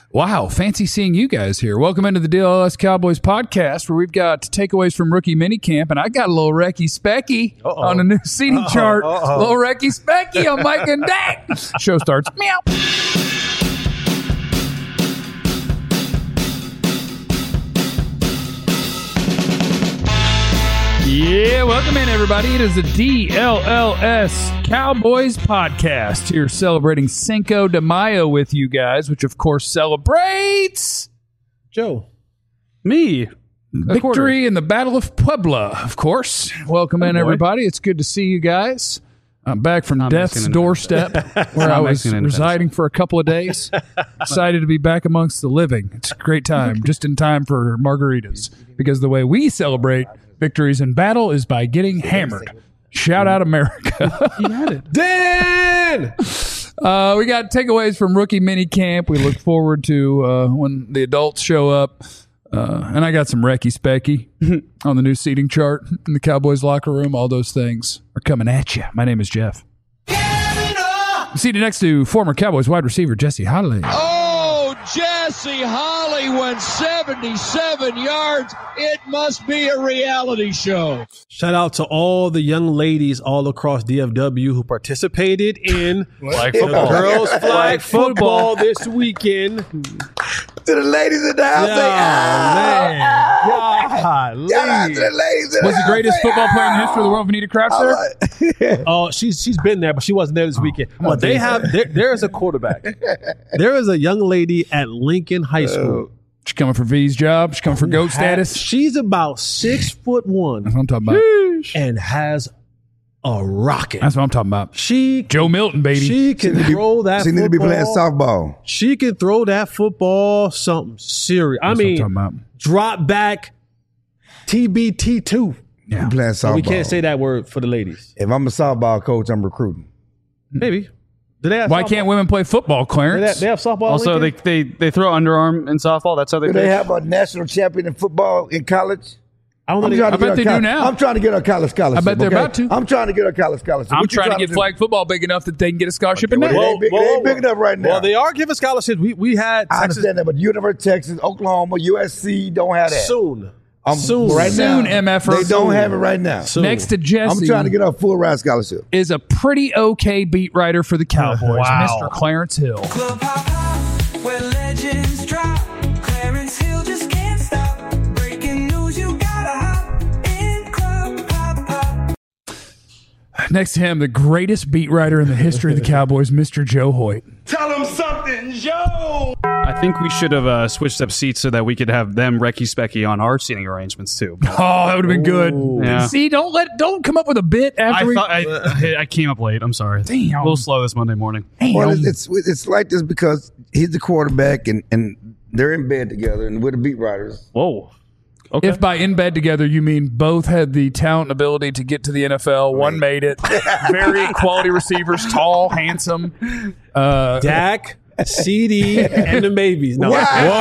Wow, fancy seeing you guys here. Welcome into the DLS Cowboys podcast, where we've got takeaways from rookie minicamp, and I got a little Recky Specky on the new seating chart. Little Recky Specky on Mike and Dak. Show starts. Meow. Yeah, welcome in, everybody. It is the DLLS Cowboys podcast. Here celebrating Cinco de Mayo with you guys, which, of course, celebrates... Joe. Me. Victory in the Battle of Puebla, of course. Welcome in, everybody. It's good to see you guys. I'm back from death's doorstep, where I was residing for a couple of days. Excited to be back amongst the living. It's a great time, just in time for margaritas, because the way we celebrate victories in battle is by getting hammered. Shout out America. You had it. Dan! We got takeaways from rookie minicamp. We look forward to when the adults show up. And I got some Recky Specky on the new seating chart in the Cowboys locker room. All those things are coming at you. My name is Jeff. Seated next to former Cowboys wide receiver Jesse Holley. Oh, Jesse Holley went 77 yards. It must be a reality show. Shout out to all the young ladies all across DFW who participated in Flag the football. girls flag football this weekend. To the ladies in the house. Man. Shout out to the ladies in Was the the greatest football player in the history of the world, Vanita Crouch there? Oh, she's been there, but she wasn't there this weekend. But they have there is a quarterback. There is a young lady at Lincoln High School. She coming for V's job. She coming for GOAT status. She's about 6'1" That's what I'm talking about. and has a rocket. That's what I'm talking about. She Joe Milton, baby. She can throw that. She need to be playing softball. She can throw that football something serious. That's what I'm talking about. Drop back TBT2. Yeah. I'm playing softball. We can't say that word for the ladies. If I'm a softball coach, I'm recruiting. Maybe. Do they have Why softball? can't women play football, Clarence? They have softball. Also, Lincoln? they throw underarm in softball. That's how they Do pitch. they have a national champion in football in college? I don't know. I'm trying to I bet get they her do now. I'm trying to get her college scholarship. I bet they're about to. I'm trying to get her college scholarship. I'm What you trying to get do? flag football big enough that they can get a scholarship in Well, that. they ain't big, they ain't big enough right now. Well, they are giving scholarships. We had I Texas understand that, but University of Texas, Oklahoma, USC don't have that. soon. Soon. Right Soon, now. MFR. They don't have it right now. Soon. Next to Jesse I'm trying to get her a full ride scholarship. is a pretty okay beat writer for the Cowboys, Wow. Mr. Clarence Hill. Club hop hop, where legends drop. Clarence Hill just can't stop. Breaking news, you gotta hop in Club hop hop. Next to him, the greatest beat writer in the history of the Cowboys, Mr. Joe Hoyt. Tell him something, Joe. I think we should have switched up seats so that we could have them Recky Specky on our seating arrangements too. Oh, that would have been good. Yeah. See, don't come up with a bit after I came up late. I'm sorry. Damn. A little slow this Monday morning. Well, it's like this because he's the quarterback and they're in bed together and we're the beat writers. Whoa. Okay. If by in bed together you mean both had the talent and ability to get to the NFL, one made it. Very quality receivers, tall, handsome. Dak, CD, and the babies. No.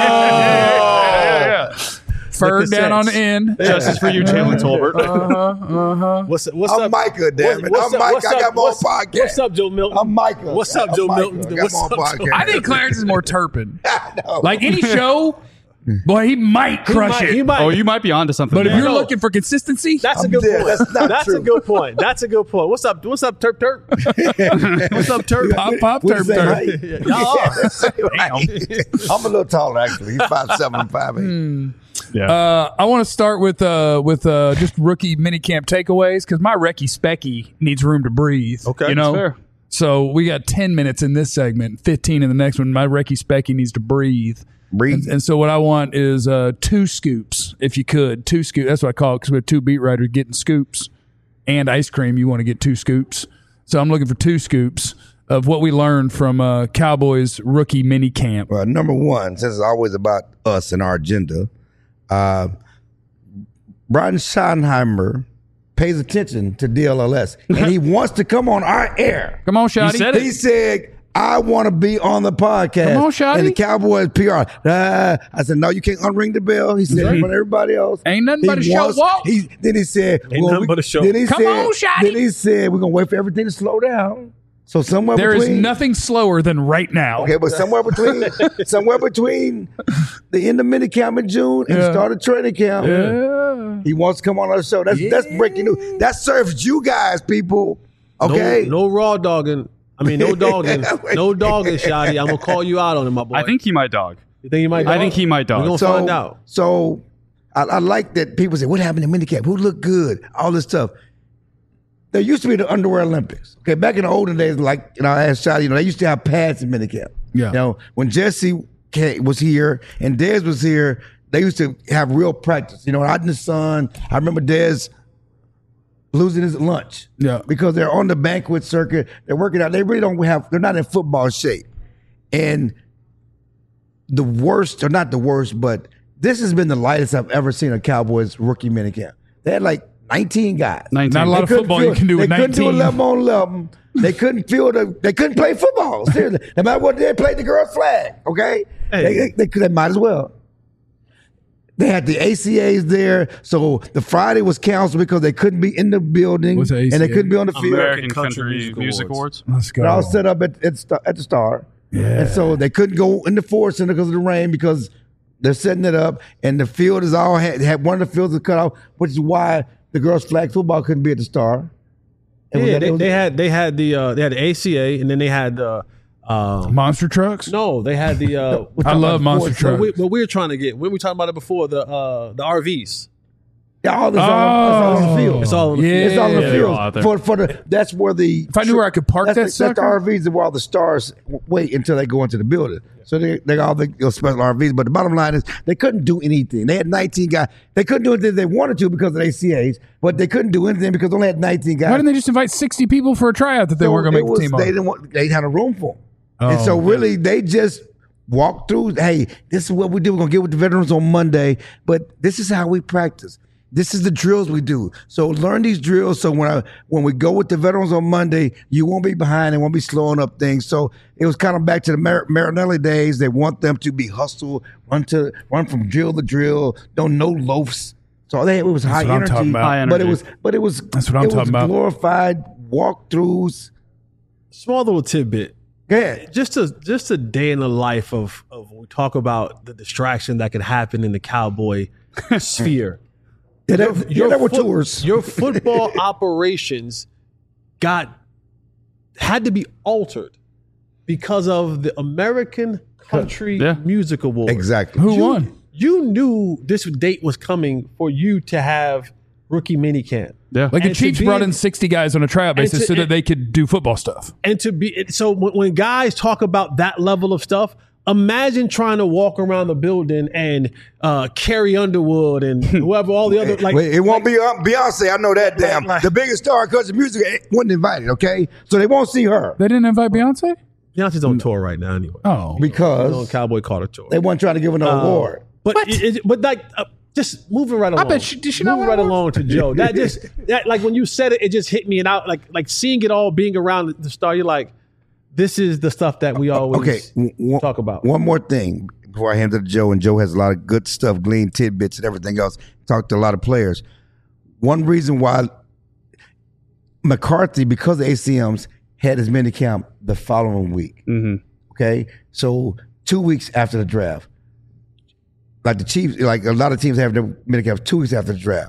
Yeah. Fur down on the end. Justice for you, Jalen Tolbert. What's I'm up? Micah, damn it. What's I'm up? Micah. What's I got up? my own What's- podcast. What's up, Joe Milton? I'm Micah. What's up, Joe I'm Milton? Micah. I got What's my own up, Joe? podcast. I think Clarence is more Turpin. No. Like any show, boy, he might crush He it. might. Oh, you might be onto something. But if there. you're No. looking for consistency, That's a I'm good dead. point. That's not That's true. a good point. That's a good point. What's up? What's up, Turp Turp? What's up, Turp? pop, We're turp, the same turp. height. Y'all are. Yeah, the same height. I'm a little taller, actually. He's 5'7", I'm 5'8". Yeah. I want to start with just rookie minicamp takeaways because my Recky Specky needs room to breathe. Okay, you know. that's fair. So we got 10 minutes in this segment, 15 in the next one. My Recky Specky needs to breathe. Breathe. And so what I want is 2 scoops, if you could. 2 scoops. That's what I call it because we have 2 beat writers getting scoops and ice cream. You want to get 2 scoops. So I'm looking for 2 scoops of what we learned from Cowboys rookie minicamp. Well, number one, since it's always about us and our agenda, Brian Schottenheimer pays attention to DLLS, and he wants to come on our air. Come on, Shotty. said He said, I want to be on the podcast. Come on, Shotty. And the Cowboys PR. I said, no, you can't unring the bell. He said, in front of everybody else. Ain't nothing but a He show wants- walk. Then he said, Ain't nothing but a show. Then he Come said, on, Shotty. Then he said, we're going to wait for everything to slow down. So somewhere There between, is nothing slower than right now. Okay, but somewhere between the end of minicamp in June and start of training camp, he wants to come on our show. That's breaking news. That serves you guys, people. Okay, no raw dogging. I mean, no dogging, no dogging, Shotty. I'm gonna call you out on it, my boy. I think he might dog. You think he might? Dog? I think he might dog. We're gonna find out. So I like that people say, "What happened in minicamp? Who looked good?" All this stuff. There used to be the Underwear Olympics. Okay, back in the olden days, like I asked Shotty, they used to have pads in minicamp. Yeah. When Jesse was here and Dez was here, they used to have real practice. Out in the sun. I remember Dez losing his lunch. Yeah. Because they're on the banquet circuit. They're working out. They really don't have. They're not in football shape. And the worst, or not the worst, but this has been the lightest I've ever seen a Cowboys rookie minicamp. They had like 19 guys. 19. Not a lot of football you can do with 19. They couldn't do 11 on 11. They couldn't they couldn't play football. Seriously. No matter what, they played the girls' flag. Okay? Hey. They might as well. They had the ACAs there, so the Friday was canceled because they couldn't be in the building What's the and they couldn't be on the field. American Country Music Awards. Let's go. They're all set up at the Star. Yeah. And so they couldn't go in the Ford Center because of the rain, because they're setting it up, and the field is all had one of the fields is cut off, which is why the girls' flag football couldn't be at the Star. Yeah, they had the ACA, and then they had the monster trucks? no, they had the I love monster trucks. what we were trying to get. We were talking about it before, the RVs. Yeah, all on the field. It's all on the Yeah. field. It's all in the they're all out there. field. For the that's where the If I knew where I could park that that's the sucker. RVs where all the stars wait until they go into the building. So they got all the special RVs. But the bottom line is they couldn't do anything. They had 19 guys. They couldn't do anything they wanted to because of the ACAs, but they couldn't do anything because they only had 19 guys. Why didn't they just invite 60 people for a tryout that they weren't going to make the team on? They didn't want. They had a room for them, and so really they just walked through. Hey, this is what we do. We're gonna get with the veterans on Monday, but this is how we practice. This is the drills we do. So learn these drills. So when we go with the veterans on Monday, you won't be behind and won't be slowing up things. So it was kind of back to the Marinelli days. They want them to be hustled, run from drill to drill. Don't know loafs. So it was high what I'm energy, talking about. High but energy. it was That's what I'm talking about. Glorified walkthroughs. Small little tidbit. Yeah. Just a day in the life of when we talk about the distraction that can happen in the Cowboy sphere. There were tours. Your football operations had to be altered because of the American Country Yeah. Music Awards. Exactly. Who won? You knew this date was coming for you to have rookie minicamp. Yeah. Like the And to Chiefs be- brought in 60 guys on a tryout basis to- so that they could do football stuff. And to be so when guys talk about that level of stuff, imagine trying to walk around the building and Carrie Underwood and whoever, all the other Wait, it won't be Beyonce. I know that. Damn, the biggest star of country music wasn't invited. Okay, so they won't see her They didn't invite Beyonce? Beyonce's on tour right now anyway. Oh. She's on because Cowboy Carter tour. they weren't trying to give her no award. But just moving right along. bet did she not moving win right an along to Joe. That like when you said it, it just hit me, and out like seeing it all being around the Star. You're like, this is the stuff that we always talk about. One more thing before I hand it to Joe, and Joe has a lot of good stuff, glean tidbits and everything else. Talked to a lot of players. One reason why McCarthy, because of ACMs, had his minicamp the following week. Mm-hmm. Okay, so 2 weeks after the draft, like the Chiefs, like a lot of teams have their minicamp 2 weeks after the draft.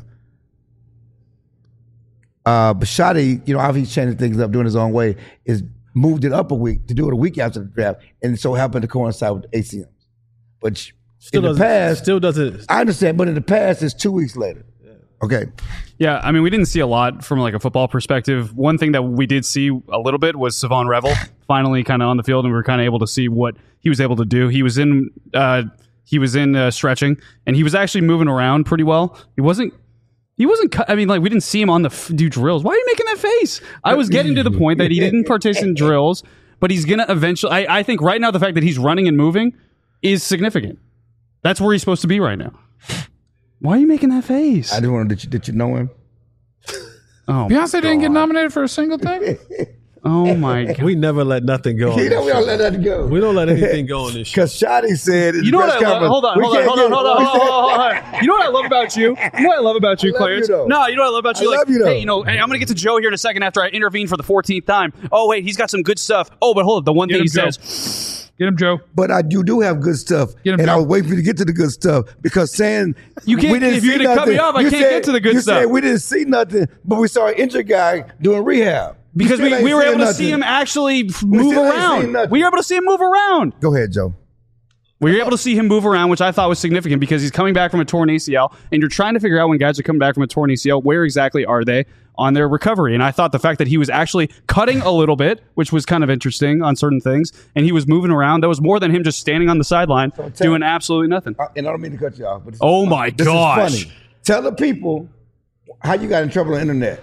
Bishotti, obviously he's changing things up, doing his own way, is moved it up a week to do it a week after the draft, and so happened to coincide with ACMs. But in the past, still doesn't. I understand, but in the past, it's 2 weeks later. Okay. Yeah, I mean, we didn't see a lot from like a football perspective. One thing that we did see a little bit was Savon Revel finally kind of on the field, and we were kind of able to see what he was able to do. He was in stretching, and he was actually moving around pretty well. He wasn't. I mean, like we didn't see him on do drills. Why are you making that face? I was getting to the point that he didn't participate in drills, but he's gonna eventually. I think right now the fact that he's running and moving is significant. That's where he's supposed to be right now. Why are you making that face? I just wanted did you know him? Oh, Beyonce didn't get nominated for a single thing? Oh my God. We never let nothing go. We don't let that go. We don't let anything go on this show. Because Shotty said, You know what I love? Hold on. You know what I love about you? You know what I love about you, I love Clarence? you, though. No, you know what I love about you? I love you, though. Hey, hey, I'm going to get to Joe here in a second after I intervene for the 14th time. Oh, wait, he's got some good stuff. Oh, but hold on. The one thing he says. Get him, Joe. But you do have good stuff. Get him, and Joe. I was waiting for you to get to the good stuff because saying You can't- we didn't if you're see gonna cut nothing. me off, I You can't get to the good you stuff. said we didn't see nothing, but we saw an injured guy doing rehab. Because You still we ain't were seeing able to nothing. see him actually move still ain't seen around. nothing. We were able to see him move around. Go ahead, Joe. We were able to see him move around, which I thought was significant because he's coming back from a torn ACL, and you're trying to figure out when guys are coming back from a torn ACL, where exactly are they on their recovery? And I thought the fact that he was actually cutting a little bit, which was kind of interesting on certain things, and he was moving around, that was more than him just standing on the sideline doing absolutely nothing. And I don't mean to cut you off, but this Oh is my this gosh. is funny. Tell the people how you got in trouble on the internet.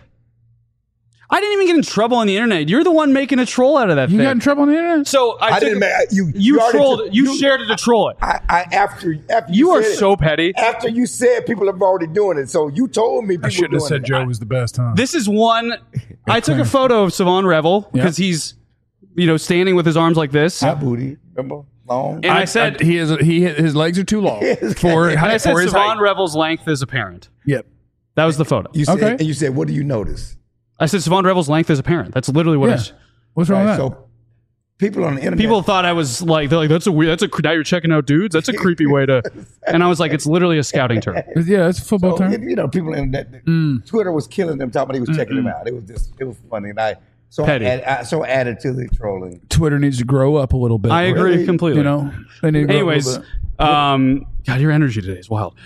I didn't even get in trouble on the internet. You're the one making a troll out of that You thing. got in trouble on the internet? So I didn't make you. You already trolled. took- You shared it to troll it. After You are said it, so petty. After you said people are already doing it, so you told me people I shouldn't have doing said it. Joe was the best, huh? This is one. I took a photo of Savon Revel because he's, standing with his arms like this. Hot booty, remember? Long. And I said, his legs are too long for and I said for his Savon height. Revel's length is apparent. Yep. That was the photo. You said, Okay. and you said, what do you notice? I said Savon Revel's length is apparent. That's literally what I Yeah. said. What's wrong Right, with that? so people on the internet. People thought I was like, they're like, now you're checking out dudes. That's a creepy way to. And I was like, it's literally a scouting term. Yeah, it's a football So, term. people on the internet, Twitter was killing them, talking about he was checking them out. It was funny. And I Petty. added to the trolling. Twitter needs to grow up a little bit. I agree Really? completely. You know, they need to grow up a Anyways, little bit. God, your energy today is wild.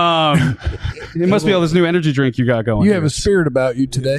It must be all this new energy drink you got going. You here. have a spirit about you today.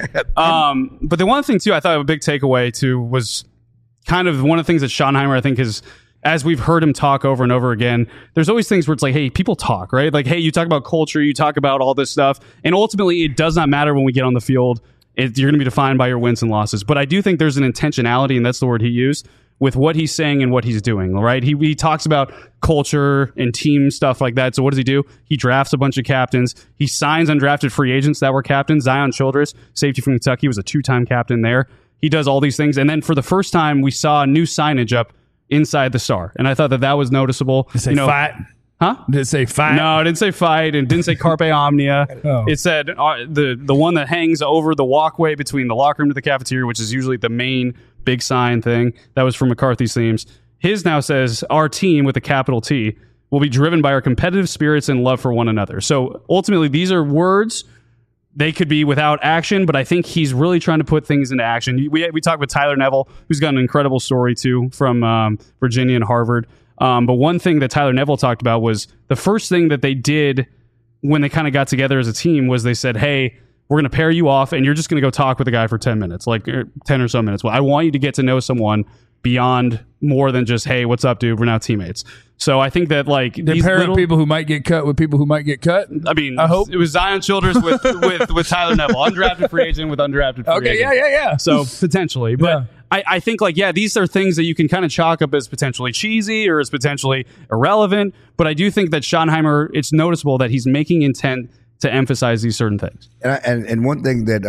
But the one thing too, I thought a big takeaway too was kind of one of the things that Schottenheimer, I think, is, as we've heard him talk over and over again, there's always things where it's like, hey, people talk, right? Like, hey, you talk about culture, you talk about all this stuff, and ultimately it does not matter when we get on the field. You're going to be defined by your wins and losses. But I do think there's an intentionality, and that's the word he used, with what he's saying and what he's doing, right? He talks about culture and team stuff like that. So what does he do? He drafts a bunch of captains. He signs undrafted free agents that were captains. Zion Childress, safety from Kentucky, was a 2-time captain there. He does all these things. And then for the first time, we saw a new signage up inside the Star. And I thought that was noticeable. Did it say fight? Huh? Did it say fight? No, it didn't say fight, and didn't say Carpe Omnia. Oh. It said the one that hangs over the walkway between the locker room to the cafeteria, which is usually the main big sign thing. That was from McCarthy's themes. His now says, our team, with a capital T, will be driven by our competitive spirits and love for one another. So ultimately, these are words. They could be without action, but I think he's really trying to put things into action. We talked with Tyler Neville, who's got an incredible story too from Virginia and Harvard. But one thing that Tyler Neville talked about was the first thing that they did when they kind of got together as a team was they said, hey, we're going to pair you off and you're just going to go talk with the guy for 10 minutes, like 10 or so minutes. Well, I want you to get to know someone beyond more than just, hey, what's up, dude? We're now teammates. So I think that like They these pair little, up people who might get cut with people who might get cut. I mean, I hope. it was Zion Childress with Tyler Neville, undrafted free agent with undrafted free Okay, agent. yeah. So potentially, but Yeah. I think like, these are things that you can kind of chalk up as potentially cheesy or as potentially irrelevant. But I do think that Schottenheimer, it's noticeable that he's making intent to emphasize these certain things. And one thing that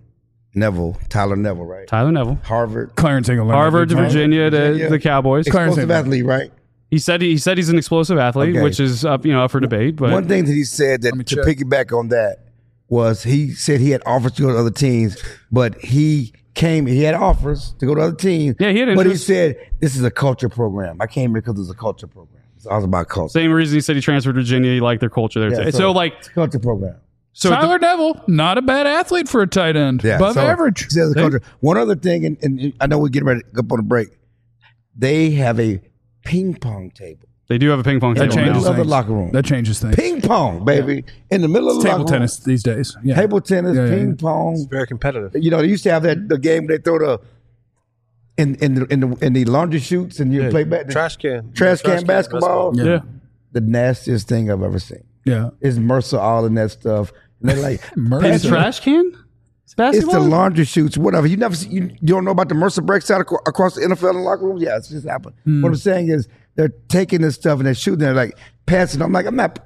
Tyler Neville, right? Tyler Neville, Harvard. Clarence ain't gonna learn Harvard to that. Virginia to Virginia. the Cowboys. Clarence Explosive ain't- athlete, right? He said he's an explosive athlete, Okay. which is up for debate. But One thing that he said that me to check. piggyback on that was he said he had offers to go to other teams, but he had offers to go to other teams. Yeah, he had But he interest. said, this is a culture program. I came here because it's a culture program. It's all about culture. same reason he said he transferred to Virginia. He liked their culture there. Yeah, too. So like, it's a culture program. so Tyler Neville, not a bad athlete for a tight end. Yeah, Above so average. he says it's a culture. One other thing, and I know we're getting ready to go up on a break. They have a ping pong table. they do have a ping pong That table changes now. Love the things. locker room. That changes things. Ping pong, baby. In the middle of the Table locker tennis these days. Yeah. room. Table tennis, Yeah, yeah, ping yeah. pong. Very competitive. You know, they used to have the game they throw the in the laundry chutes and you play back Trash can. trash can basketball. Yeah. The nastiest thing I've ever seen. Yeah. It's Mercer all in that stuff. And they're like Mercer. It's trash can? It's It's basketball? the laundry chutes, whatever. You never see, you don't know about the Mercer breaks out across the NFL and locker rooms? Yeah, it's just happened. What I'm saying is they're taking this stuff and they're shooting it, like passing. I'm like, I'm not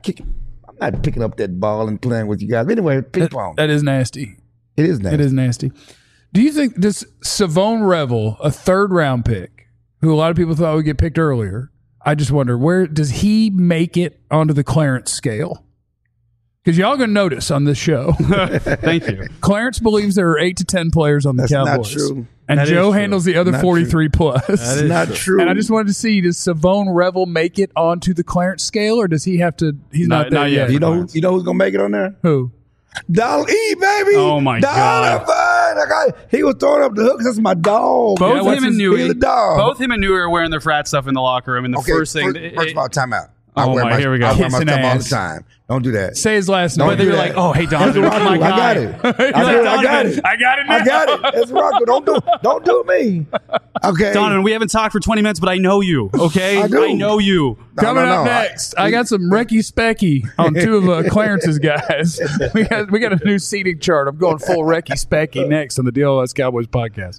picking up that ball and playing with you guys. Anyway, ping pong. That is nasty. It is nasty. It is nasty. Do you think this Savone Revel, a 3rd round pick, who a lot of people thought would get picked earlier, I just wonder, where does he make it onto the Clarence scale? Because y'all going to notice on this show. Thank you. Clarence believes there are 8 to 10 players on the Cowboys. That's not true. And That Joe is true. handles the other Not 43 plus. That's not true. And I just wanted to see, does Savone Revel make it onto the Clarence scale, or does he have to? He's not there not yet. yet. You know who's gonna make it on there? Who? Dollar E, baby. Oh, my God. He was throwing up the hooks. That's my dog. Both What's him and his- Newey, he's the dog. both him and Newey are wearing their frat stuff in the locker room. And the Okay, first thing, first of all, time out. I Oh, wear my, here we go. I wear my Kissing stuff all the ass. time. Don't do that. Say his last Don't name. they do were that. like, oh, hey, That's Donovan, Rocco. my guy. I got it. He's like, I got it. I got it now. I got it. That's Rocco. Don't do me. Okay. Donovan, we haven't talked for 20 minutes, but I know you, okay? I do. know you. Coming up No. next, I got some Recky Specky on 2 of Clarence's guys. We got a new seating chart. I'm going full Recky Specky next on the DLS Cowboys podcast.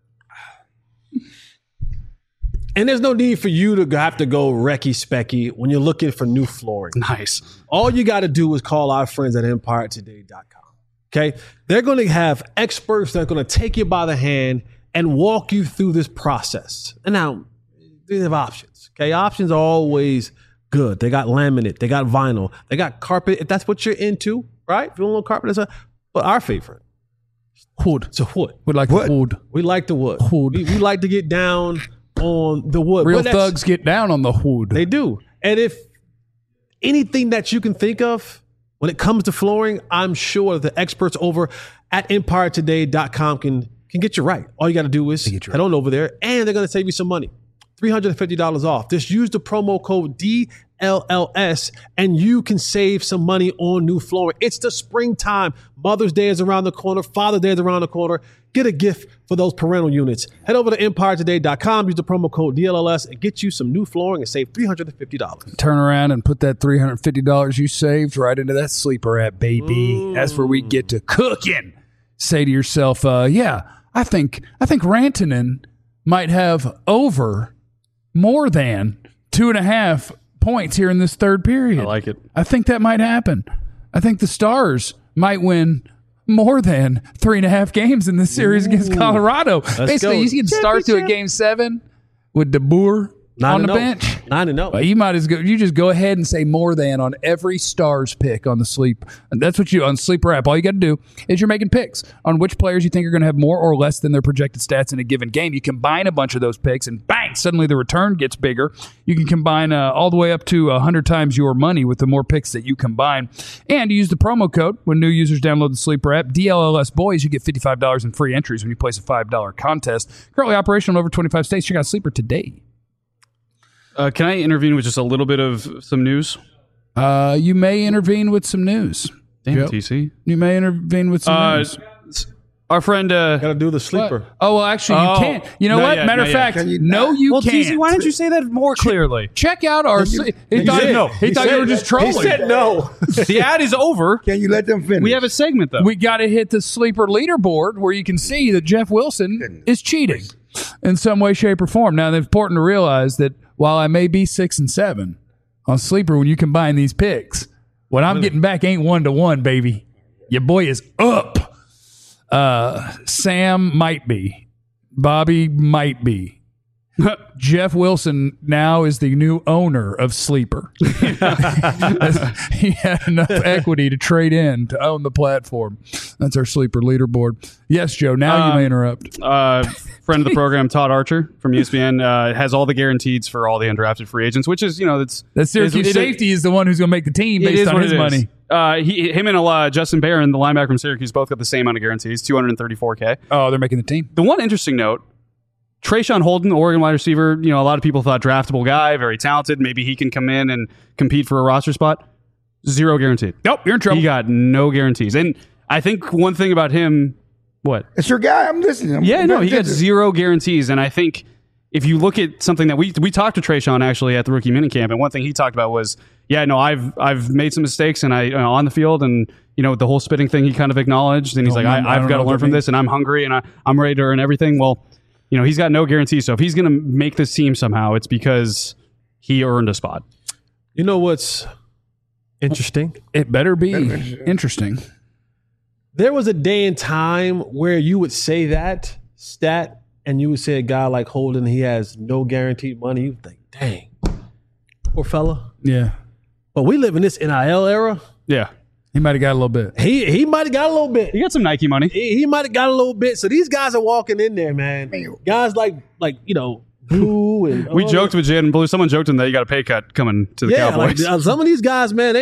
And there's no need for you to have to go Recky Specky when you're looking for new flooring. Nice. All you got to do is call our friends at EmpireToday.com. Okay? They're going to have experts that are going to take you by the hand and walk you through this process. And now, they have options. Okay? Options are always good. They got laminate, they got vinyl, they got carpet, if that's what you're into, right? If you want a little carpet, but our favorite, wood. It's a wood. Would like What? wood. We like the wood. Wood. We like to get down on the wood. Real But that's- thugs get down on the wood. They do. And if anything that you can think of when it comes to flooring, I'm sure the experts over at EmpireToday.com can get you right. All you got to do is head on over there, and they're going to save you some money. $350 off. Just use the promo code DLLS and you can save some money on new flooring. It's the springtime. Mother's Day is around the corner. Father's Day is around the corner. Get a gift for those parental units. Head over to EmpireToday.com. Use the promo code DLLS and get you some new flooring and save $350. Turn around and put that $350 you saved right into that sleeper app, baby. That's where we get to cooking. Say to yourself, yeah, I think Rantanen might have more than 2.5 points here in this third period. I like it. I think that might happen. I think the Stars might win more than 3.5 games in this series against Colorado. Basically, go. you can start to a Game 7 with DeBoer on the 9-0. bench. 9-0. Well, you might as go. You just go ahead and say more than on every Stars pick on the sleep. And that's what you on Sleeper app. All you got to do is you're making picks on which players you think are going to have more or less than their projected stats in a given game. You combine a bunch of those picks, and bang! Suddenly the return gets bigger. You can combine all the way up to 100 times your money with the more picks that you combine. And you use the promo code when new users download the Sleeper app. DLLS Boys. You get $55 in free entries when you place a $5 contest. Currently operational in over 25 states. Check out Sleeper today. Can I intervene with just a little bit of some news? You may intervene with some news. Damn, Yep. TC. You may intervene with some news. Our friend... Got to do the sleeper. Oh, well, actually, you Oh, can't. You know not what? yet, Matter of not yet. fact, Can you no, not? you well, can't. TC, why didn't you say that more clearly? Check out our... He thought, said no. He thought you were just trolling. He said no. The ad is over. Can you let them finish? We have a segment, though. We got to hit the Sleeper leaderboard where you can see that Jeff Wilson is cheating in some way, shape, or form. Now, it's important to realize that while I may be 6 and 7 on Sleeper, when you combine these picks, what I'm getting back ain't 1-1, baby. Your boy is up. Sam might be. Bobby might be. Jeff Wilson now is the new owner of Sleeper. He had enough equity to trade in to own the platform. That's our Sleeper leaderboard. Yes, Joe, now you may interrupt. Friend of the program, Todd Archer from ESPN, has all the guarantees for all the undrafted free agents, which is, That Syracuse safety is the one who's going to make the team based on his money. Him and Justin Barron, the linebacker from Syracuse, both got the same amount of guarantees, $234K. Oh, they're making the team. The one interesting note, Trayshawn Holden, Oregon wide receiver, a lot of people thought draftable guy, very talented. Maybe he can come in and compete for a roster spot. Zero guaranteed. Nope, you're in trouble. He got no guarantees. And I think one thing about him, what? It's your guy. I'm listening. He got attentive. zero guarantees. And I think if you look at something that we talked to Trayshawn actually at the rookie minicamp, and one thing he talked about was, I've made some mistakes and I on the field, and the whole spitting thing he kind of acknowledged, and he's like, I've got to learn from this, and I'm hungry and I'm ready to earn everything. Well, he's got no guarantees. So if he's going to make this team somehow, it's because he earned a spot. You know what's interesting? It better be interesting. there was a day and time where you would say that stat and you would say a guy like Holden, he has no guaranteed money. You would think, dang, poor fella. Yeah. But we live in this NIL era. Yeah. He might have got a little bit. He might have got a little bit. He got some Nike money. He might have got a little bit. So these guys are walking in there, man. Guys like Blue and We joked with Jaden Blue. Someone joked him that you got a pay cut coming to the Cowboys. Like, some of these guys, man,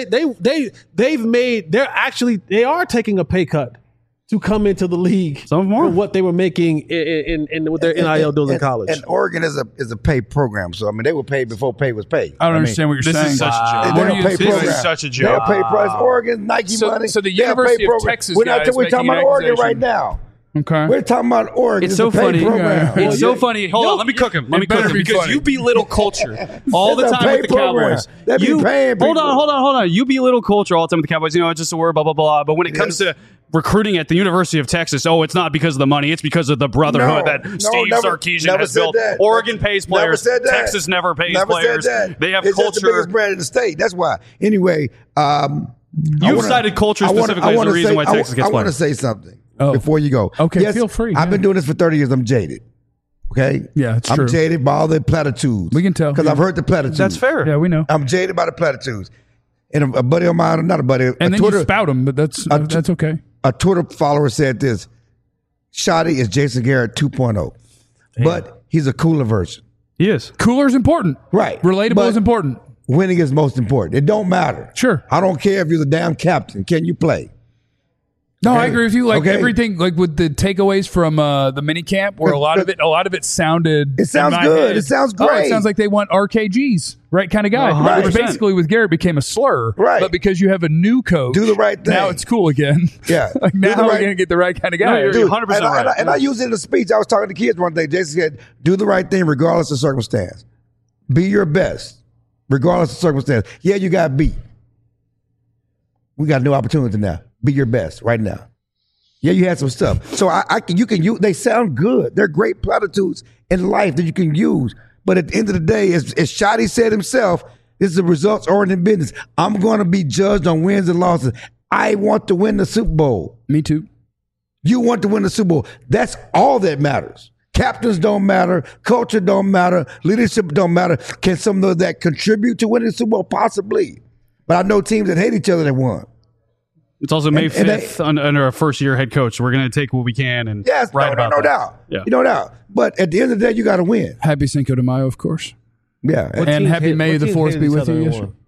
they are taking a pay cut to come into the league. Some more for what they were making in with their NIL deals in college. And Oregon is a paid program, so I mean they were paid before pay was paid. I don't understand what you're saying. This is such a joke. They're a paid program. This is such a They're joke. a paid price. Oregon, Nike money. So the they're a University paid of program. Texas We're guy is talking making about an Oregon accusation. right now. Okay. We're talking about Oregon. It's so a paid funny. program. It's so funny. Hold on, let me cook him. Let me cook better him be because funny. you belittle culture all the It's a time with paid the program. Cowboys. They be You paying hold people. on. You belittle culture all the time with the Cowboys. You know, it's just a word, blah blah blah. But when it comes to recruiting at the University of Texas, it's not because of the money. It's because of the brotherhood that Steve Sarkisian has built. That. Oregon pays players. Never said that. Texas never pays Never players. Said that. They have it's culture. Just the biggest brand in the state. That's why. Anyway, You've cited culture specifically as the reason why Texas gets I want to players. say something before you go. Okay, yes, feel free. I've been doing this for 30 years. I'm jaded. Okay? Yeah, it's I'm true. jaded by all the platitudes. We can tell. Because I've heard the platitudes. That's fair. Yeah, we know. I'm jaded by the platitudes. And a buddy of mine, not a buddy, And then Twitter, you spout him, but that's okay. a Twitter follower said this: Shoddy is Jason Garrett 2.0, but he's a cooler version. He is. Cooler's important. Right. Relatable But is important. Winning is most important. It don't matter. Sure. I don't care if you're the damn captain. Can you play? No, Okay. I agree with you. Like Okay. everything, like with the takeaways from the mini camp, where a lot of it sounded. It sounds in my good. head, It sounds Oh, great. it sounds like they want RKGs, right? Kind of guy. Right. Which basically with Garrett became a slur. Right. But because you have a new coach, Do the right thing. Now it's cool again. Yeah. like Do now the we're right- gonna get the right kind of guy. No, you're Dude, 100% and I- right. and I used it in a speech. I was talking to kids one day. Jason said, do the right thing regardless of circumstance. Be your best regardless of circumstance. Yeah, you got beat. We got a new opportunity now. Be your best right now. Yeah, you had some stuff. So you can use, they sound good. They're great platitudes in life that you can use. But at the end of the day, as Shoddy said himself, this is a results-oriented business. I'm going to be judged on wins and losses. I want to win the Super Bowl. Me too. You want to win the Super Bowl. That's all that matters. Captains don't matter. Culture don't matter. Leadership don't matter. Can some of that contribute to winning the Super Bowl? Possibly. But I know teams that hate each other that won. It's also May And they- 5th under a first-year head coach. We're going to take what we can and Yes, write about no that. doubt. Yeah. No doubt. But at the end of the day, you got to win. Happy Cinco de Mayo, of course. Yeah. What And teams happy hate- May what the teams 4th hated be each with other you. and Yes, won? sir.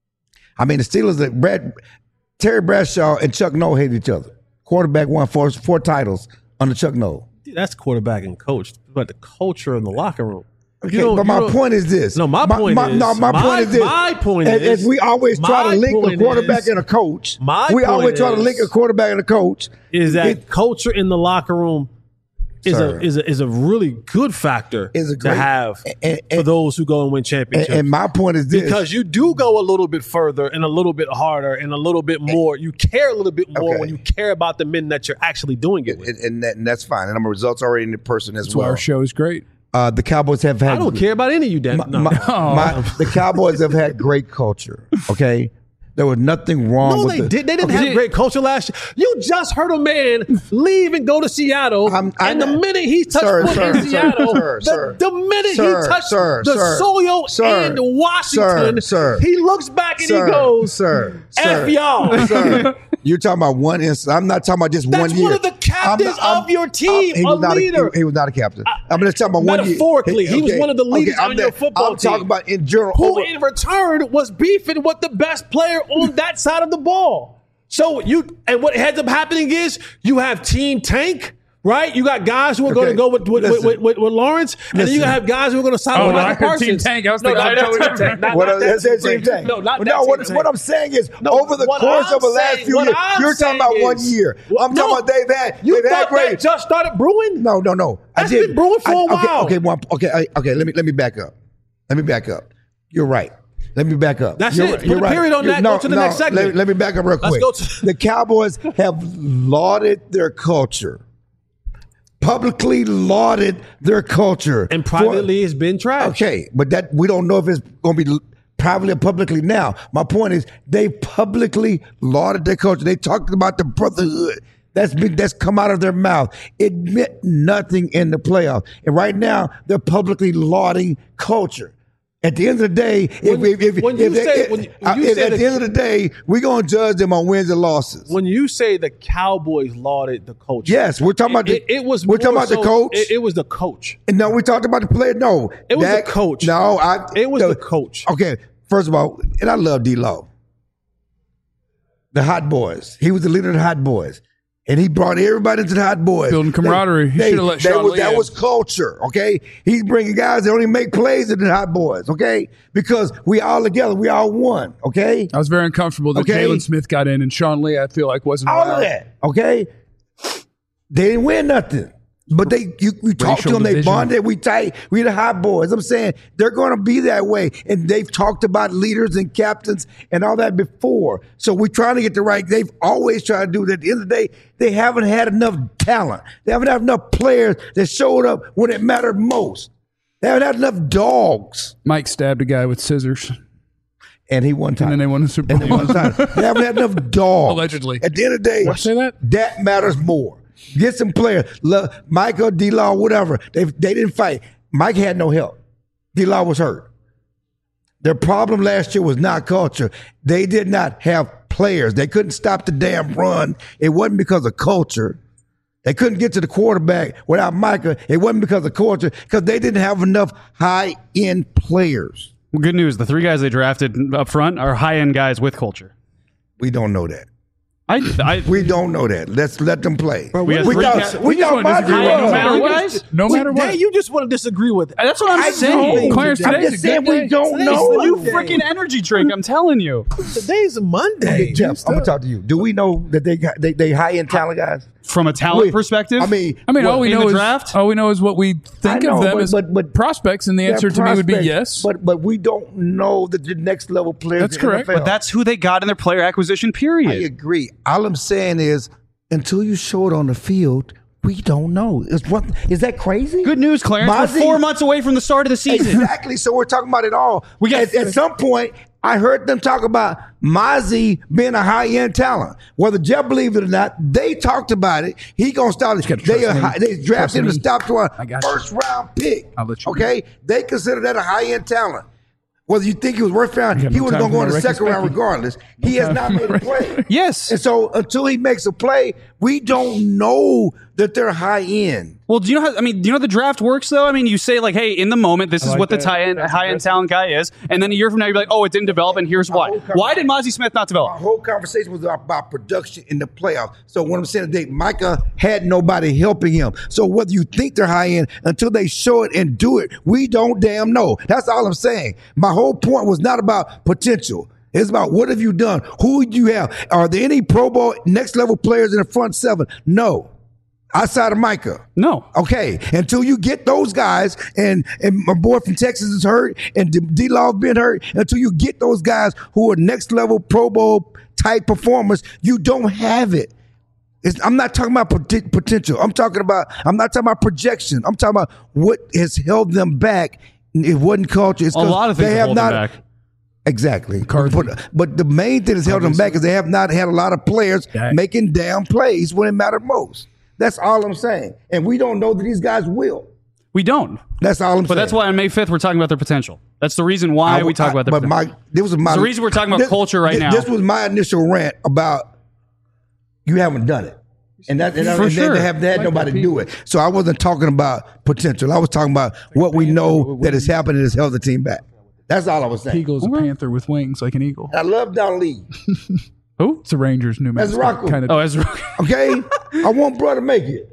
I mean, the Steelers, Terry Bradshaw and Chuck Noll hate each other. Quarterback won four titles under Chuck Noll. That's quarterback and coach, but the culture in the locker room. Okay, but my point is this. My point is this. My point as is we always try to my link a point quarterback is- and a coach. my We point always try to is- link a quarterback and a coach. Is that culture in the locker room Sir. is a really good factor Is a to great- have and- for those who go and win championships. And my point is this. because you do go a little bit further and a little bit harder and a little bit more. You care a little bit more Okay. when you care about the men that you're actually doing it with. and that's fine. And I'm a results-oriented person as That's why well. our show is great. The Cowboys have had. I don't care about any of you, Dan. No. The Cowboys have had great culture. Okay, there was nothing wrong. No, with they the, did. They didn't Okay. have great culture last year. You just heard a man leave and go to Seattle, and the minute he touched foot in Seattle, the minute he touched the soil in Washington, he looks back and he goes, "F y'all." Sir, you're talking about one instance. I'm not talking about just That's one year. one of the captains of your team, he a was not leader. He was not a captain. I'm just talking about one year. Metaphorically, he was one of the leaders I'm on your football I'm talking team. about in general. Who in return was beefing with the best player on that side of the ball. So what ends up happening is you have Team Tank, right? You got guys who are going to go with Lawrence, and then you have guys who are going to sign with I Michael heard Team Parsons. Tank. I was No, thinking not totally Team different. Tank. What Not that that's Team Team Tank. No, not But that no, Team what Tank. I'm saying is, No, over the what course I'm of the last saying- few what years, I'm you're talking about saying 1 is- year. I'm No, talking about they've had thought great. that just started brewing? No. That's been brewing for a while. Okay. Let me back up. You're right. Let me back up. That's You're it. right. Put You're a right. period on that. Go to the next segment. Let me back up real Let's quick. go to- The Cowboys have lauded their culture. Publicly lauded their culture. And privately it's been trash. Okay, but that we don't know if it's going to be privately or publicly now. My point is they publicly lauded their culture. They talked about the brotherhood. that's come out of their mouth. It meant nothing in the playoffs. And right now, they're publicly lauding culture. At the end of the day, at the end of the day, we're going to judge them on wins and losses. When you say the Cowboys lauded the coach, yes, we're talking about the coach. It was the coach. And no, we talked about the player. No, it was the coach. No, it was the coach. Okay, first of all, and I love D-Law. The Hot Boys. He was the leader of the Hot Boys. And he brought everybody into the Hot Boys. Building camaraderie. He should have let Sean Lee That in. was culture, okay? He's bringing guys that only make plays in the Hot Boys, okay? Because we all together. We all one, okay? I was very uncomfortable that Jalen Smith got in and Sean Lee, I feel like, wasn't all allowed. of that, okay? They didn't win nothing. But we talked to them, they bonded, we tight, we the Hot Boys. I'm saying they're going to be that way. And they've talked about leaders and captains and all that before. So we're trying to get the right, they've always tried to do that. At the end of the day, they haven't had enough talent. They haven't had enough players that showed up when it mattered most. They haven't had enough dogs. Mike stabbed a guy with scissors. And he won time. And then they won the Super Bowl. They haven't had enough dogs. Allegedly. At the end of the day, Did I say that? That matters more. Get some players. Michael, D-Law, whatever. They didn't fight. Mike had no help. D-Law was hurt. Their problem last year was not culture. They did not have players. They couldn't stop the damn run. It wasn't because of culture. They couldn't get to the quarterback without Micah. It wasn't because of culture, because they didn't have enough high-end players. Well, good news. The 3 guys they drafted up front are high-end guys with culture. We don't know that. We don't know that. Let's let them play. Bro, we thought no matter what, guys. No matter what. You just want to disagree with it. That's what I'm saying. Clarence, I'm just saying we don't know. It's the new freaking energy drink. I'm telling you. Today's Monday. Okay, Jeff, I'm gonna talk to you. Do we know that they high end talent guys? From a talent perspective, I mean, all we in know the draft? All we know is what we think of them as prospects, and the answer to me would be yes. But we don't know that the next level players. That's correct. But that's who they got in their player acquisition period. I agree. All I'm saying is, until you show it on the field, we don't know. Is that crazy? Good news, Clarence. We're 4 months away from the start of the season. Exactly. So we're talking about it all. At some point, I heard them talk about Mozzie being a high-end talent. Whether Jeff believed it or not, they talked about it. He gonna start. They drafted him to stop to a first-round pick. Okay, they consider that a high-end talent. Whether you think he was worth round, he was going to go in the second round regardless. He has not made a play. Yes. And so until he makes a play, we don't know that they're high end. Well, do you know how the draft works though? I mean, you say like, hey, in the moment, this is what the high end talent guy is. And then a year from now, you're like, oh, it didn't develop, and here's why. Why did Mozzie Smith not develop? Our whole conversation was about production in the playoffs. So what I'm saying today, Micah had nobody helping him. So whether you think they're high end, until they show it and do it, we don't damn know. That's all I'm saying. My whole point was not about potential. It's about what have you done? Who do you have? Are there any Pro Bowl next level players in the front 7? No. Outside of Micah. No. Okay. Until you get those guys, and my boy from Texas is hurt, and D-Law been hurt, until you get those guys who are next level Pro Bowl type performers, you don't have it. I'm not talking about potential. I'm not talking about projection. I'm talking about what has held them back. It wasn't culture. It's a lot of things have held them back. Exactly. But the main thing that's held them back is they have not had a lot of players making damn plays when it mattered most. That's all I'm saying. And we don't know that these guys will. We don't. That's all I'm saying. But that's why on May 5th, we're talking about their potential. That's the reason why we talk about their potential. It's the reason we're talking about culture right now. This was my initial rant about you haven't done it. And they haven't had nobody do it. So I wasn't talking about potential. I was talking about what we know that has happened and has held the team back. That's all I was saying. Eagle's a panther with wings like an eagle. I love Don Lee. Who? It's a Rangers new mascot. Okay? I want bro to make it.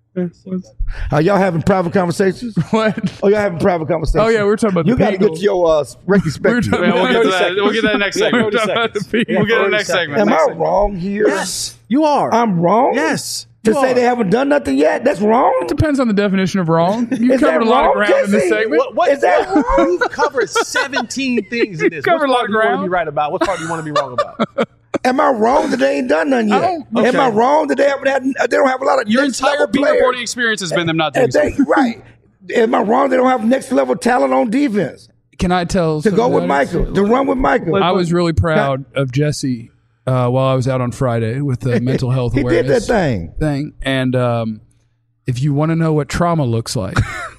Are y'all having private conversations? What? Oh, y'all having private conversations? Oh, yeah, we're talking about you got to get your Ricky Spector. We'll get that next segment. We'll get that next segment. Am I wrong here? Yes, you are. I'm wrong? Yes. To say they haven't done nothing yet? That's wrong? It depends on the definition of wrong. You covered a lot of ground in this segment. Is that wrong? You've covered 17 things in this. Covered a lot of ground. What part do you want to be right about? What part do you want to be wrong about? Am I wrong that they ain't done nothing yet? Okay. Am I wrong that they don't have a lot of Your next entire level beat players? reporting experience has been them not doing something. Right. Am I wrong they don't have next level talent on defense? Can I tell To go with Michael, to run with Michael. I was really proud of Jesse while I was out on Friday with the mental health He did awareness that thing. And if you want to know what trauma looks like,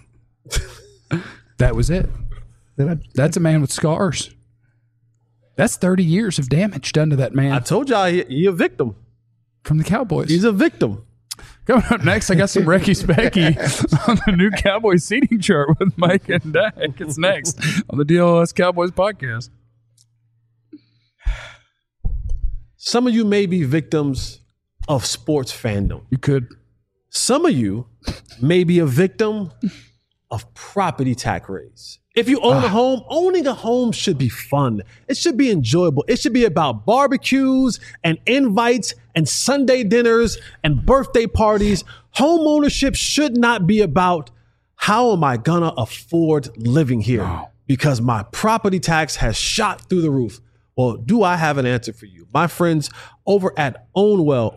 that was it. That's a man with scars. That's 30 years of damage done to that man I told y'all he a victim. from the Cowboys. He's a victim. Coming up next, I got some Recky Specky on the new Cowboys seating chart with Mike and Dak. It's next on the DLS Cowboys podcast. Some of you may be victims of sports fandom. You could. Some of you may be a victim of property tax raise. If you own a home, owning a home should be fun. It should be enjoyable. It should be about barbecues and invites and Sunday dinners and birthday parties. Home ownership should not be about how am I gonna afford living here because my property tax has shot through the roof. Well, do I have an answer for you? My friends over at Ownwell,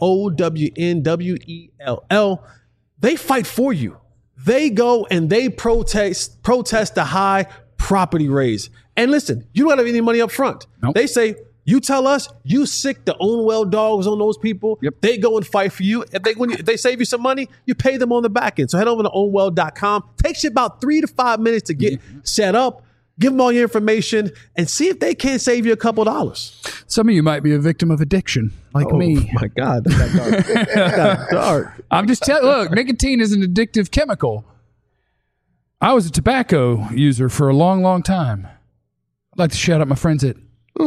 OWNWELL, they fight for you. They go and they protest the high property raise. And listen, you don't have any money up front. Nope. They say, you tell us you sick the Ownwell dogs on those people. Yep. They go and fight for you. If they save you some money, you pay them on the back end. So head over to ownwell.com. Takes you about 3 to 5 minutes to get set up. Give them all your information and see if they can't save you a couple dollars. Some of you might be a victim of addiction, like me. My God, that got dark. That got dark. I'm just telling. Look, nicotine is an addictive chemical. I was a tobacco user for a long, long time. I'd like to shout out my friends at